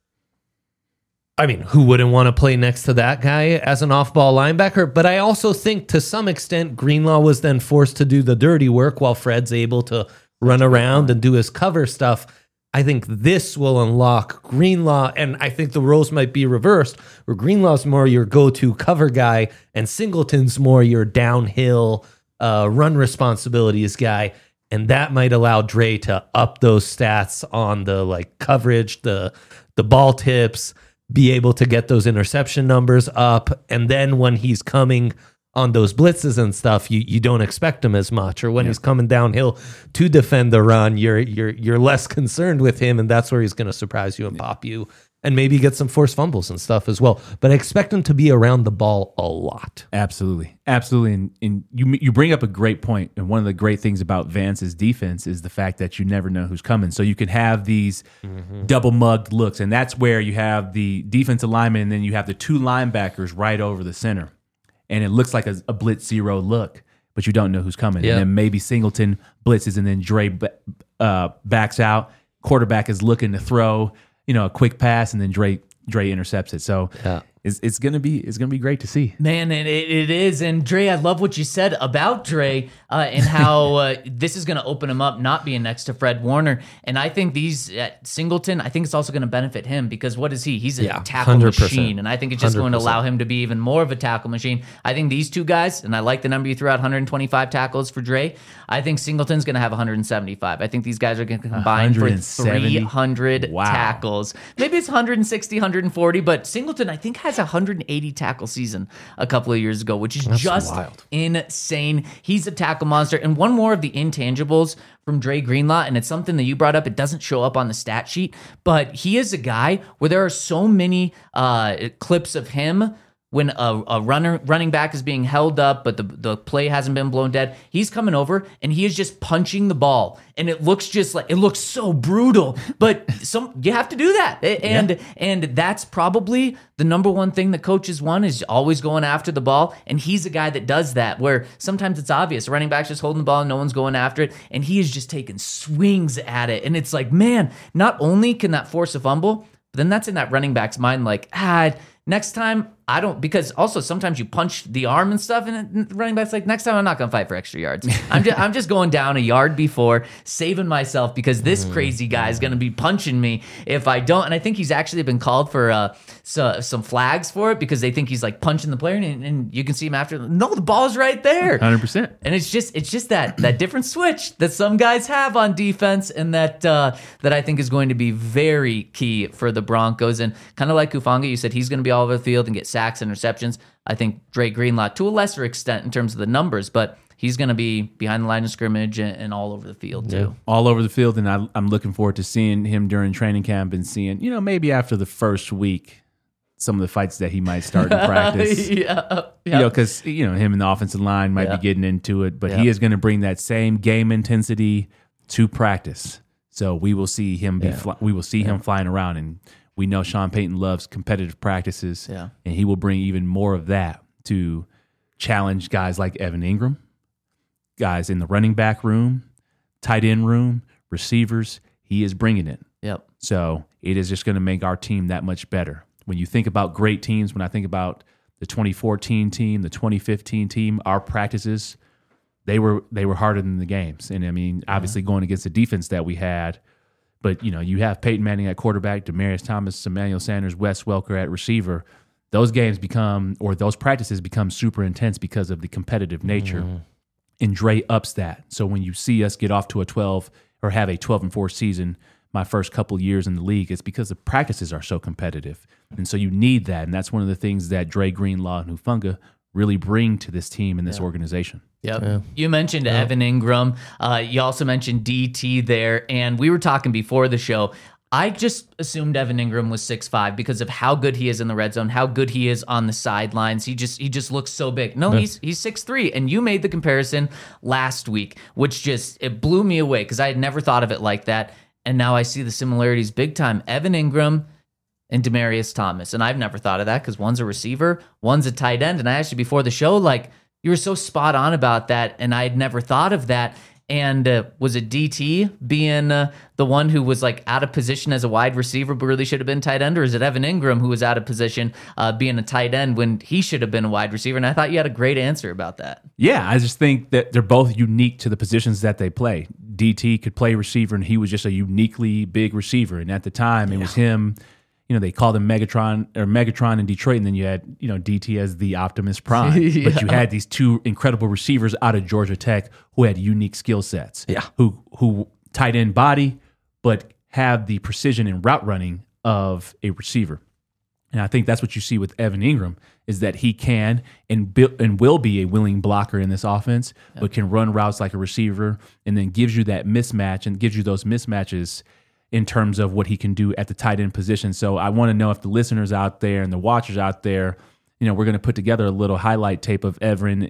I mean, who wouldn't want to play next to that guy as an off-ball linebacker? But I also think to some extent, Greenlaw was then forced to do the dirty work while Fred's able to run around and do his cover stuff. I think this will unlock Greenlaw, and I think the roles might be reversed, where Greenlaw's more your go-to cover guy and Singleton's more your downhill run responsibilities guy. And that might allow Dre to up those stats on the coverage, the ball tips, be able to get those interception numbers up. And then when he's coming on those blitzes and stuff, you don't expect him as much. Or when he's coming downhill to defend the run, you're less concerned with him, and that's where he's going to surprise you and pop you and maybe get some forced fumbles and stuff as well. But I expect him to be around the ball a lot. Absolutely. And you bring up a great point. And one of the great things about Vance's defense is the fact that you never know who's coming. So you can have these double mugged looks, and that's where you have the defensive lineman, and then you have the two linebackers right over the center. And it looks like a blitz zero look, but you don't know who's coming. And then maybe Singleton blitzes, and then Dre backs out. Quarterback is looking to throw, a quick pass, and then Dre intercepts it. So it's gonna be great to see. Man, and it is. And Dre, I love what you said about Dre and how this is going to open him up not being next to Fred Warner. And I think Singleton, I think it's also going to benefit him, because what is he? He's a tackle 100%. machine. And I think it's just 100%. going to allow him to be even more of a tackle machine. I think these two guys, and I like the number you threw out, 125 tackles for Dre. I think Singleton's going to have 175. I think these guys are going to combine for 300 tackles. Maybe it's 160, 140, but Singleton, I think, has 180 tackle season a couple of years ago, which is just wild. Insane. He's a tackle monster. And one more of the intangibles from Dre Greenlaw, and it's something that you brought up. It doesn't show up on the stat sheet, but he is a guy where there are so many clips of him when a running back is being held up, but the play hasn't been blown dead. He's coming over and he is just punching the ball, and it looks so brutal. But you have to do that, and that's probably the number one thing that coaches want, is always going after the ball. And he's a guy that does that, where sometimes it's obvious, the running back's just holding the ball and no one's going after it, and he is just taking swings at it. And it's like, man, not only can that force a fumble, but then that's in that running back's mind, next time I don't, because also sometimes you punch the arm and stuff, and the running back's like, next time I'm not going to fight for extra yards. I'm just going down a yard before, saving myself, because this crazy guy is going to be punching me if I don't. And I think he's actually been called for some flags for it, because they think he's punching the player, and you can see him after. No, the ball's right there. 100%. And it's just that different switch that some guys have on defense, and that I think is going to be very key for the Broncos. And kind of like Hufanga, you said he's going to be all over the field and get sacks, interceptions. I think Dre Greenlaw, to a lesser extent in terms of the numbers, but he's going to be behind the line of scrimmage and all over the field too. All over the field, and I'm looking forward to seeing him during training camp and seeing, maybe after the first week, some of the fights that he might start in practice. Because him and the offensive line might be getting into it, but he is going to bring that same game intensity to practice. So we will see him him flying around, and we know Sean Payton loves competitive practices, and he will bring even more of that to challenge guys like Evan Ingram, guys in the running back room, tight end room, receivers. He is bringing it. Yep. So it is just going to make our team that much better. When you think about great teams, when I think about the 2014 team, the 2015 team, our practices, they were harder than the games. And I mean, obviously going against the defense that we had, but you have Peyton Manning at quarterback, Demaryius Thomas, Emmanuel Sanders, Wes Welker at receiver. Those games those practices become super intense because of the competitive nature. And Dre ups that. So when you see us get off to a 12 or have a 12-4 season, my first couple years in the league, it's because the practices are so competitive. And so you need that. And that's one of the things that Dre Greenlaw and Hufanga really bring to this team and this organization. Yep. Yeah. You mentioned Evan Ingram. You also mentioned DT there. And we were talking before the show. I just assumed Evan Ingram was 6'5" because of how good he is in the red zone, how good he is on the sidelines. He just looks so big. No, he's 6'3", and you made the comparison last week, which it blew me away because I had never thought of it like that. And now I see the similarities big time. Evan Ingram and Demaryius Thomas. And I've never thought of that because one's a receiver, one's a tight end. And I asked you before the show, you were so spot on about that, and I had never thought of that. And was it DT being the one who was out of position as a wide receiver but really should have been tight end? Or is it Evan Ingram who was out of position being a tight end when he should have been a wide receiver? And I thought you had a great answer about that. Yeah, I just think that they're both unique to the positions that they play. DT could play receiver, and he was just a uniquely big receiver. And at the time, it was him. They called him Megatron in Detroit, and then you had, DT as the Optimus Prime. But you had these two incredible receivers out of Georgia Tech who had unique skill sets. Yeah. Who tight end body, but have the precision and route running of a receiver. And I think that's what you see with Evan Ingram, is that he can and will be a willing blocker in this offense, but can run routes like a receiver, and then gives you that mismatch and gives you those mismatches in terms of what he can do at the tight end position. So I want to know if the listeners out there and the watchers out there, we're going to put together a little highlight tape of Evan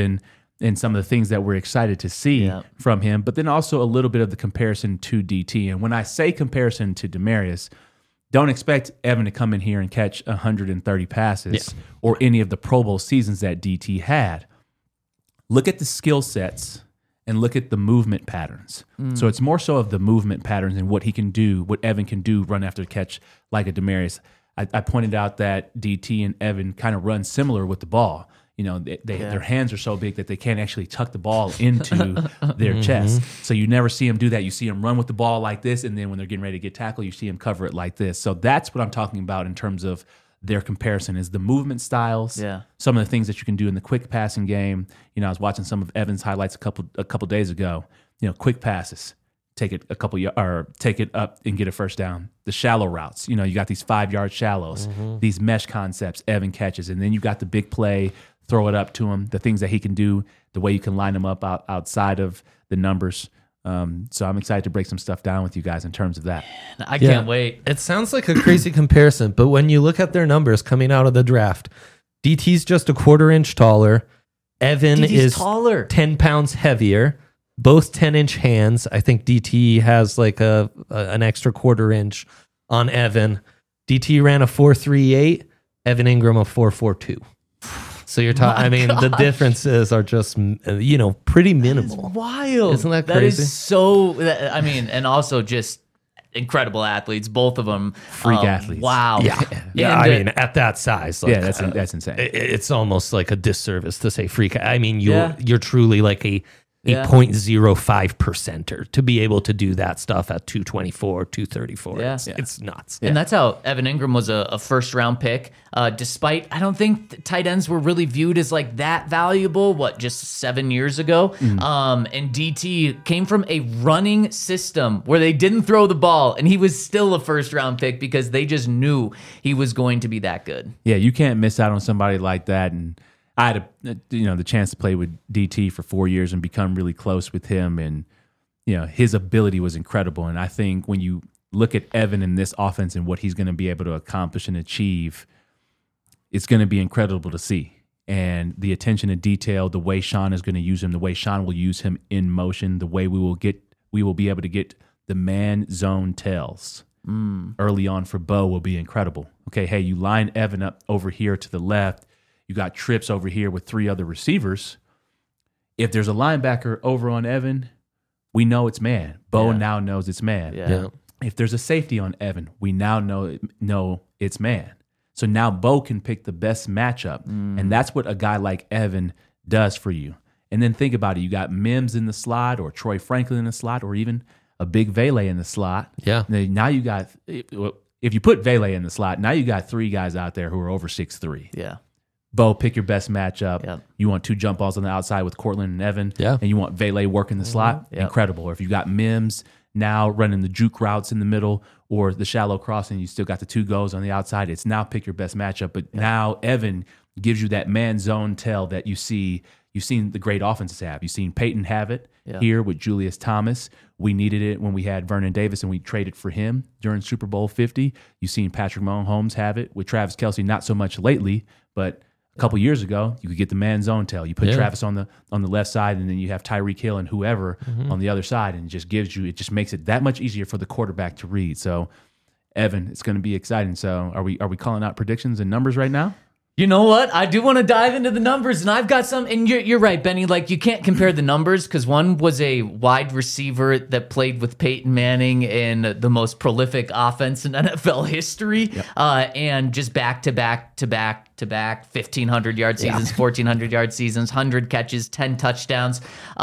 and some of the things that we're excited to see from him, but then also a little bit of the comparison to DT. And when I say comparison to Demaryius, don't expect Evan to come in here and catch 130 passes or any of the Pro Bowl seasons that DT had. Look at the skill sets and look at the movement patterns. So it's more so of the movement patterns and what he can do, what Evan can do run after the catch like a Demaryius. I pointed out that DT and Evan kind of run similar with the ball. Their hands are so big that they can't actually tuck the ball into their chest. So you never see them do that. You see them run with the ball like this, and then when they're getting ready to get tackled, you see them cover it like this. So that's what I'm talking about in terms of their comparison, is the movement styles, some of the things that you can do in the quick passing game. I was watching some of Evan's highlights a couple days ago. Quick passes, take it take it up and get a first down. The shallow routes, you got these 5-yard shallows, these mesh concepts Evan catches, and then you got the big play, throw it up to him, the things that he can do, the way you can line him up outside of the numbers. So I'm excited to break some stuff down with you guys in terms of that. I can't wait. It sounds like a crazy comparison, but when you look at their numbers coming out of the draft, DT's just a 1/4 inch taller. Evan DT's is taller. 10 pounds heavier. Both 10-inch hands. I think DT has an extra 1/4 inch on Evan. DT ran a 4.38. Evan Ingram a 4.42. So you're talking, the differences are just, pretty minimal. That is wild. Isn't that crazy? That is so, and also just incredible athletes, both of them. Freak athletes. Wow. Yeah. And, at that size. That's insane. It's almost like a disservice to say freak. You're truly like a 0.05%er to be able to do that stuff at 224, 234. Yeah. It's nuts. And that's how Evan Ingram was a first-round pick, despite I don't think tight ends were really viewed as that valuable, just 7 years ago. And DT came from a running system where they didn't throw the ball, and he was still a first-round pick because they just knew he was going to be that good. Yeah, you can't miss out on somebody like that. And I had the chance to play with DT for 4 years and become really close with him, and his ability was incredible. And I think when you look at Evan in this offense and what he's going to be able to accomplish and achieve, it's going to be incredible to see. And the attention to detail, the way Sean is going to use him, the way Sean will use him in motion, the way we will be able to get the man zone tells early on for Bo will be incredible. Okay, hey, you line Evan up over here to the left. You got trips over here with 3 other receivers. If there's a linebacker over on Evan, we know it's man. Bo now knows it's man. Yeah. If there's a safety on Evan, we now know it's man. So now Bo can pick the best matchup. And that's what a guy like Evan does for you. And then think about it. You got Mims in the slot, or Troy Franklin in the slot, or even a big Vele in the slot. Yeah. Now you got, if you put Vele in the slot, now you got 3 guys out there who are over 6'3". Yeah. Bo, pick your best matchup. Yep. You want 2 jump balls on the outside with Cortland and Evan. Yeah. And you want Vele working the slot. Yep. Incredible. Or if you got Mims now running the juke routes in the middle or the shallow crossing, you still got the 2 goals on the outside. It's now pick your best matchup. But now Evan gives you that man zone tell that you've seen the great offenses have. You've seen Peyton have it here with Julius Thomas. We needed it when we had Vernon Davis and we traded for him during Super Bowl 50. You've seen Patrick Mahomes have it with Travis Kelce, not so much lately, but a couple years ago, you could get the man zone tell. You put Travis on the left side, and then you have Tyreek Hill and whoever on the other side, and it just makes it that much easier for the quarterback to read. So, Evan, it's going to be exciting. So, are we calling out predictions and numbers right now? You know what? I do want to dive into the numbers, and I've got some. And you're right, Benny. Like, you can't compare the numbers because one was a wide receiver that played with Peyton Manning in the most prolific offense in NFL history, and just back to back 1,500-yard seasons, 1,400-yard seasons, 100 catches, 10 touchdowns.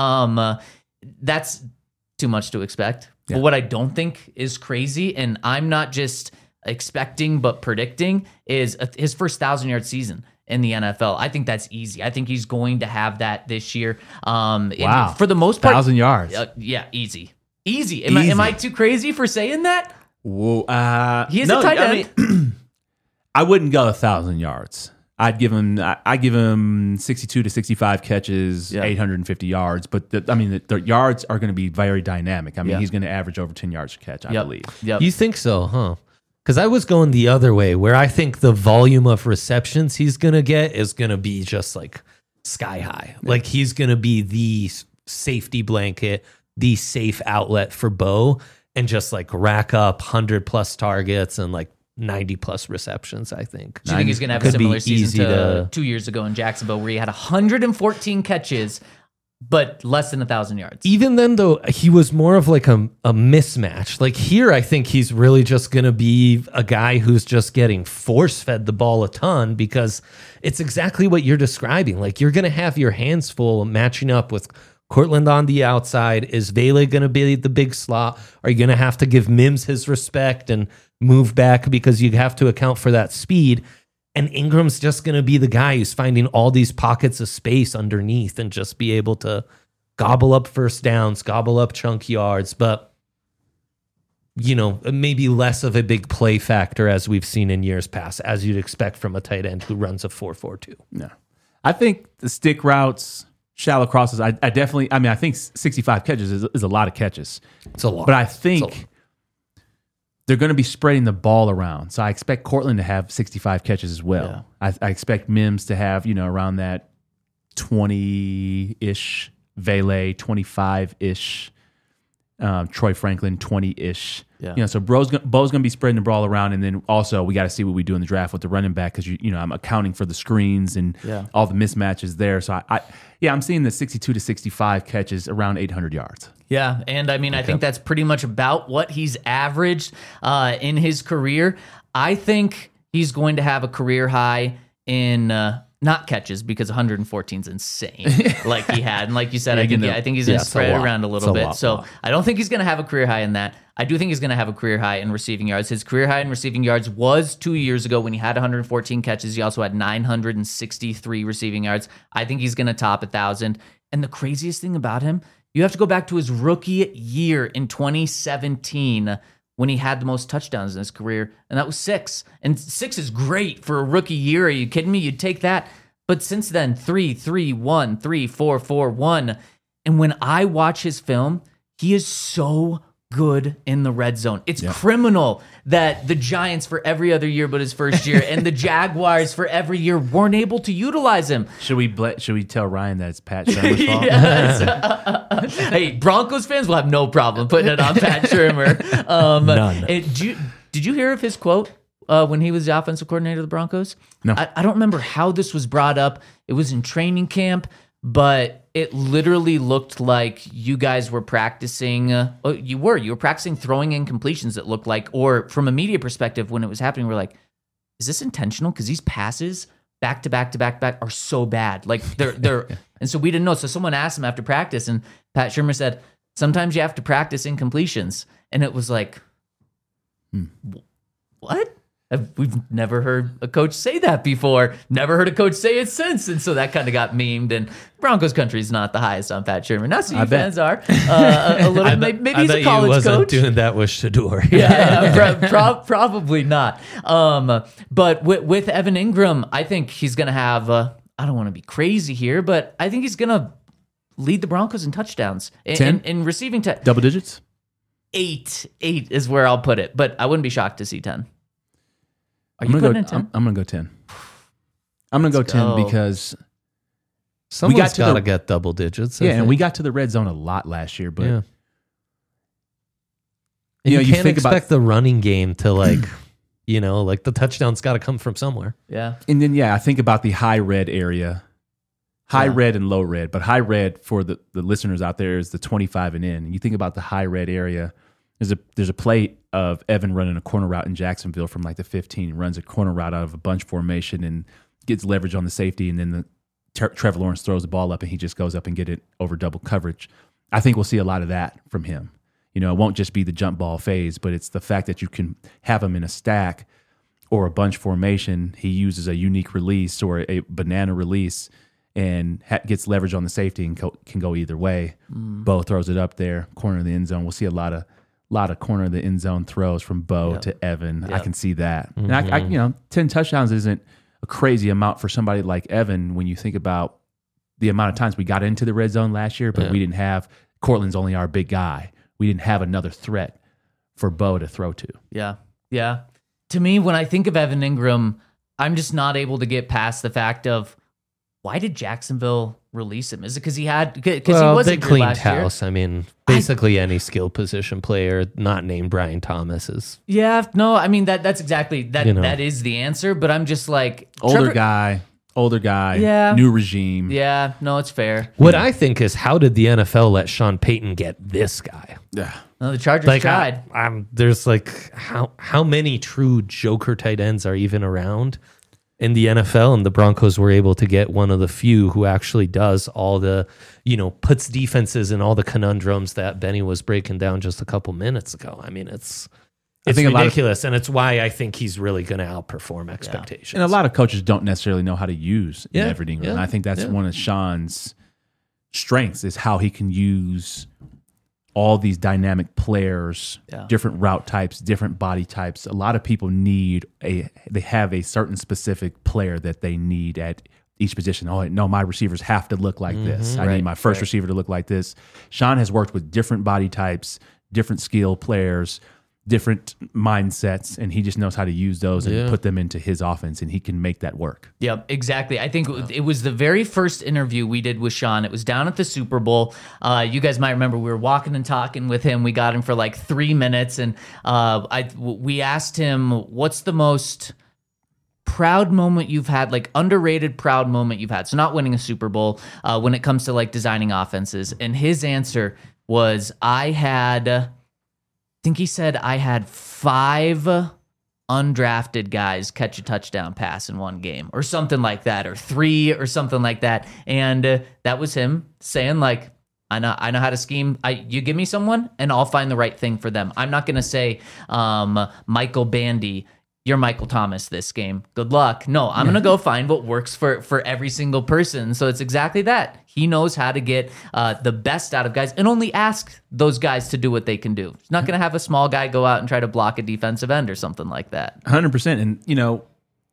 That's too much to expect. Yeah. But what I don't think is crazy, and I'm not just expecting but predicting, is his first 1,000-yard season in the NFL. I think that's easy. I think he's going to have that this year. Wow. For the most part, 1,000 yards. Yeah, easy. Am I too crazy for saying that? Whoa. He is a tight end. I wouldn't go 1,000 yards. I give him 62 to 65 catches, 850 yards. But the yards are going to be very dynamic. He's going to average over 10 yards a catch, I believe. Yep. You think so, huh? Because I was going the other way, where I think the volume of receptions he's going to get is going to be just like sky high. Yeah. Like he's going to be the safety blanket, the safe outlet for Bo, and just like rack up 100+ targets and like 90+ receptions, I think. Do you think he's going to have a similar season to 2 years ago in Jacksonville, where he had 114 catches, but less than 1,000 yards? Even then, though, he was more of like a mismatch. Like here, I think he's really just going to be a guy who's just getting force-fed the ball a ton, because it's exactly what you're describing. Like you're going to have your hands full matching up with Cortland on the outside. Is Vele going to be the big slot? Are you going to have to give Mims his respect and move back because you have to account for that speed? And Ingram's just going to be the guy who's finding all these pockets of space underneath and just be able to gobble up first downs, gobble up chunk yards, but, maybe less of a big play factor as we've seen in years past, as you'd expect from a tight end who runs a 4.42. No. I think the stick routes, shallow crosses, I think 65 catches is a lot of catches. It's a lot. But I think they're going to be spreading the ball around. So I expect Cortland to have 65 catches as well. Yeah. I expect Mims to have, around that 20-ish, Vele 25-ish, Troy Franklin 20-ish. Yeah. So Bo's going to be spreading the ball around, and then also we got to see what we do in the draft with the running back, because I'm accounting for the screens and all the mismatches there. So I'm seeing the 62 to 65 catches, around 800 yards. Yeah, and I think that's pretty much about what he's averaged in his career. I think he's going to have a career high in not catches, because 114 is insane, like he had. And like you said, I think he's going to spread it around a little bit. So I don't think he's going to have a career high in that. I do think he's going to have a career high in receiving yards. His career high in receiving yards was 2 years ago when he had 114 catches. He also had 963 receiving yards. I think he's going to top 1,000. And the craziest thing about him, you have to go back to his rookie year in 2017 when he had the most touchdowns in his career, and that was 6. And 6 is great for a rookie year. Are you kidding me? You'd take that. But since then, 3-3-1, 3-4-4-1. And when I watch his film, he is so good in the red zone. It's criminal that the Giants for every other year but his first year and the Jaguars for every year weren't able to utilize him. Should we tell Ryan that it's Pat Shurmur's fault? Hey, Broncos fans will have no problem putting it on Pat Shurmur. None. Did you hear of his quote when he was the offensive coordinator of the Broncos? No. I don't remember how this was brought up. It was in training camp, but it literally looked like you guys were practicing. You were practicing throwing incompletions. It looked like, or from a media perspective, when it was happening, we're like, is this intentional? Because these passes back to back to back back are so bad. Like they're, and so we didn't know. So someone asked him after practice, and Pat Shurmur said, sometimes you have to practice incompletions, and it was like, what? We've never heard a coach say that before. Never heard a coach say it since. And so that kind of got memed. And Broncos country is not the highest on Pat Shurmur. Not so you fans are. A little. Maybe he's a college wasn't coach. Doing that with Shador. Probably not. But with Evan Ingram, I think he's going to have. I don't want to be crazy here, but I think he's going to lead the Broncos in touchdowns in receiving. Double digits. 8 is where I'll put it. But I wouldn't be shocked to see 10. I'm gonna go 10. I'm gonna go 10 because someone's got to get double digits. And we got to the red zone a lot last year, but you can't expect the running game to like the touchdown's got to come from somewhere. Yeah, and then I think about the high red area, red and low red, but high red for the listeners out there is the 25 and in. And you think about the high red area. There's a play of Evan running a corner route in Jacksonville from like the 15, runs a corner route out of a bunch formation and gets leverage on the safety, and then Trevor Lawrence throws the ball up and he just goes up and get it over double coverage. I think we'll see a lot of that from him. It won't just be the jump ball phase, but it's the fact that you can have him in a stack or a bunch formation. He uses a unique release or a banana release and gets leverage on the safety and can go either way. Bo throws it up there, corner of the end zone. We'll see a lot of corner of the end zone throws from Bo to Evan. I can see that. And I 10 touchdowns isn't a crazy amount for somebody like Evan when you think about the amount of times we got into the red zone last year, but we didn't have Cortland's only our big guy. We didn't have another threat for Bo to throw to. Yeah. Yeah. To me, when I think of Evan Ingram, I'm just not able to get past the fact of why did Jacksonville release him? Is it because he wasn't they good cleaned last house. year? I mean, basically any skill position player not named Brian Thomas is. Yeah, no, I mean that's exactly that. That is the answer. But I'm just like older guy, new regime. Yeah, no, it's fair. What I think is, how did the NFL let Sean Payton get this guy? Yeah, no, the Chargers tried. There's like how many true joker tight ends are even around in the NFL, and the Broncos were able to get one of the few who actually does all the, puts defenses in all the conundrums that Benny was breaking down just a couple minutes ago. I mean, it's ridiculous, and it's why I think he's really going to outperform expectations. And a lot of coaches don't necessarily know how to use Evan Ingram. And I think that's one of Sean's strengths is how he can use all these dynamic players, different route types, different body types. A lot of people they have a certain specific player that they need at each position. Oh, no, my receivers have to look like this. I need my first receiver to look like this. Sean has worked with different body types, different skill players, different mindsets, and he just knows how to use those and put them into his offense, and he can make that work. Yep, exactly. I think it was the very first interview we did with Sean. It was down at the Super Bowl. You guys might remember we were walking and talking with him. We got him for like 3 minutes, and we asked him, what's the most proud moment you've had, like underrated proud moment you've had? So not winning a Super Bowl when it comes to like designing offenses. And his answer was, I think he said I had 5 undrafted guys catch a touchdown pass in one game or something like that, or 3 or something like that. And that was him saying like, I know how to scheme. You give me someone and I'll find the right thing for them. I'm not going to say, Michael Bandy, you're Michael Thomas this game. Good luck. No, I'm going to go find what works for every single person. So it's exactly that. He knows how to get the best out of guys and only ask those guys to do what they can do. He's not going to have a small guy go out and try to block a defensive end or something like that. 100%. And,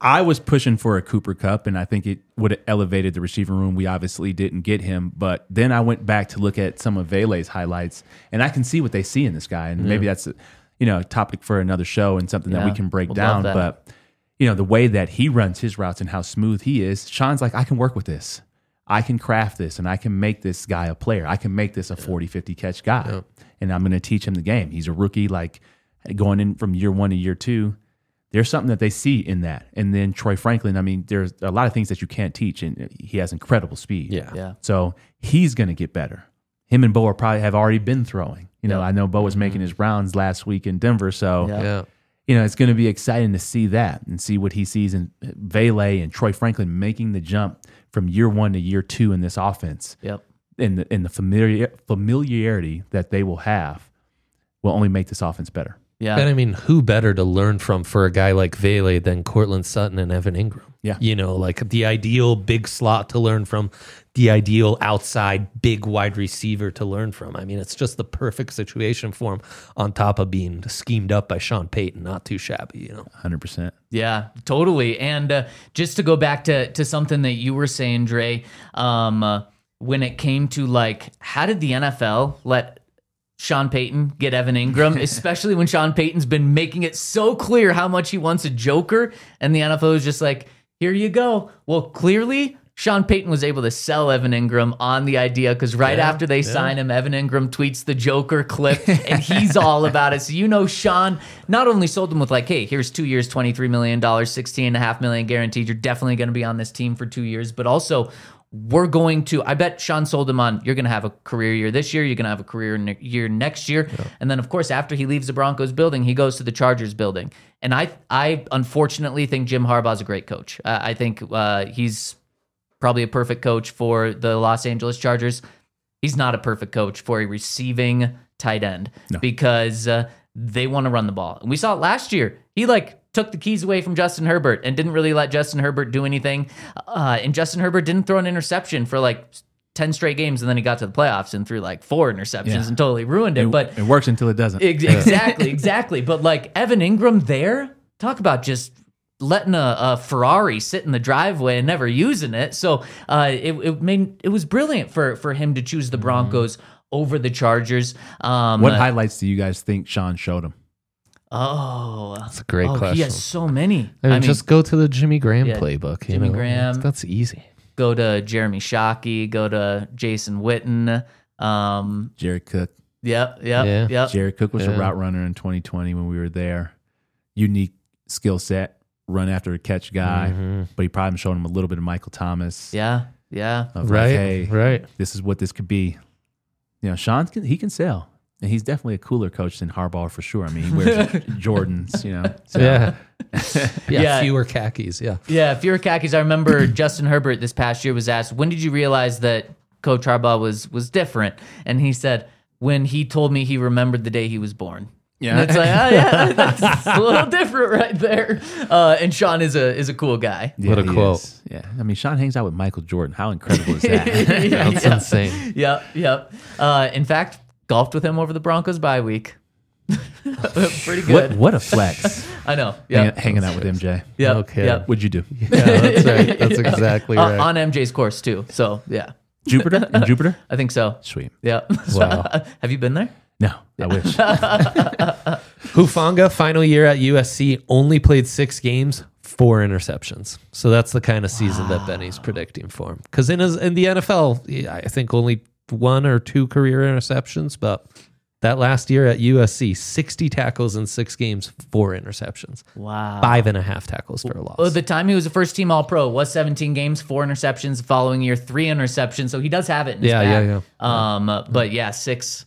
I was pushing for a Cooper Kupp, and I think it would have elevated the receiver room. We obviously didn't get him, but then I went back to look at some of Vele's highlights, and I can see what they see in this guy. And maybe that's a topic for another show and something that we can break down. But the way that he runs his routes and how smooth he is, Sean's like, I can work with this. I can craft this, and I can make this guy a player. I can make this a 40, 50 catch guy, and I'm going to teach him the game. He's a rookie, like going in from year 1 to year 2. There's something that they see in that. And then Troy Franklin, I mean, there's a lot of things that you can't teach, and he has incredible speed. Yeah. So he's going to get better. Him and Bo have already been throwing. I know Bo was making his rounds last week in Denver, so it's going to be exciting to see that and see what he sees in Vele and Troy Franklin making the jump from year 1 to year 2 in this offense. And the familiarity that they will have will only make this offense better. Yeah. And I mean, who better to learn from for a guy like Vele than Cortland Sutton and Evan Ingram? Yeah. Like the ideal big slot to learn from, the ideal outside big wide receiver to learn from. I mean, it's just the perfect situation for him on top of being schemed up by Sean Payton. Not too shabby, 100%. Yeah, totally. And just to go back to something that you were saying, Dre, when it came to like, how did the NFL let Sean Payton get Evan Ingram, especially when Sean Payton's been making it so clear how much he wants a joker, and the NFL is just like, here you go. Well, clearly Sean Payton was able to sell Evan Ingram on the idea, because after they sign him, Evan Ingram tweets the joker clip, and he's all about it. So Sean not only sold him with like, hey, here's 2 years, $23 million, $16.5 million guaranteed. You're definitely going to be on this team for 2 years, but also I bet Sean sold him on, you're going to have a career year this year, you're going to have a career year next year. Yeah. And then, of course, after he leaves the Broncos building, he goes to the Chargers building. And I unfortunately think Jim Harbaugh's a great coach. I think he's probably a perfect coach for the Los Angeles Chargers. He's not a perfect coach for a receiving tight end because they want to run the ball. And we saw it last year. He took the keys away from Justin Herbert and didn't really let Justin Herbert do anything. And Justin Herbert didn't throw an interception for 10 straight games, and then he got to the playoffs and threw 4 interceptions and totally ruined it. But it works until it doesn't. Exactly. But Evan Ingram there, talk about just letting a Ferrari sit in the driveway and never using it. So it was brilliant for him to choose the Broncos over the Chargers. What highlights do you guys think Sean showed him? Oh, that's a great question. He has so many. I mean, just go to the Jimmy Graham playbook. Jimmy Graham. That's easy. Go to Jeremy Shockey. Go to Jason Witten. Jared Cook. Yep. Jared Cook was a route runner in 2020 when we were there. Unique skill set, run after a catch guy, but he probably showed him a little bit of Michael Thomas. Yeah. Right. This is what this could be. Sean can sell. And he's definitely a cooler coach than Harbaugh for sure. I mean, he wears Jordans, So. Yeah, fewer khakis, fewer khakis. I remember Justin Herbert this past year was asked, when did you realize that Coach Harbaugh was different? And he said, when he told me he remembered the day he was born. Yeah. And it's that's a little different right there. And Sean is a cool guy. Yeah, what a quote. Is. Yeah. I mean, Sean hangs out with Michael Jordan. How incredible is that? That's insane. Yep. In fact, golfed with him over the Broncos bye week. Pretty good. What a flex. I know. Hanging out with MJ. Yeah. Okay. Yep. What'd you do? Yeah, that's right. That's exactly right. On MJ's course too. So yeah. Jupiter? In Jupiter? I think so. Sweet. Yeah. Wow. Have you been there? No, I wish. Hufanga, final year at USC, only played 6 games, 4 interceptions. So that's the kind of season that Benny's predicting for him. Because in the NFL, I think only 1 or 2 career interceptions, but that last year at USC, 60 tackles in 6 games, 4 interceptions. Wow. 5.5 tackles for a loss. Well, the time he was a first team All-Pro was 17 games, 4 interceptions. The following year, 3 interceptions. So he does have it in his back. But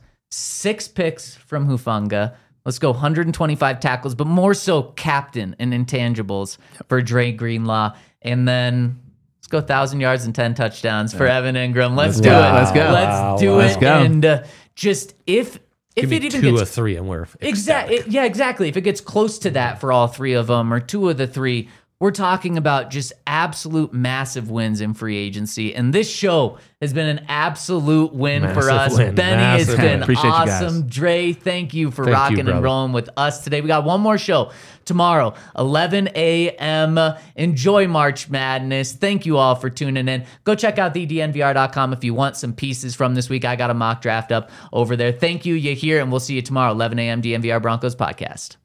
6 picks from Hufanga. Let's go 125 tackles, but more so captain and intangibles for Dre Greenlaw. And then let's go 1,000 yards and 10 touchdowns for Evan Ingram. Let's do it. Let's go. Let's do it. And just if Give it me even 2 gets or 3 and we're exactly. If it gets close to that for all 3 of them, or 2 of the 3, we're talking about just absolute massive wins in free agency. And this show has been an absolute win for us. Benny, it's been awesome. Dre, thank you for rocking and rolling with us today. We got one more show tomorrow, 11 a.m. Enjoy March Madness. Thank you all for tuning in. Go check out thednvr.com if you want some pieces from this week. I got a mock draft up over there. Thank you, Yahir, and we'll see you tomorrow, 11 a.m. DNVR Broncos podcast.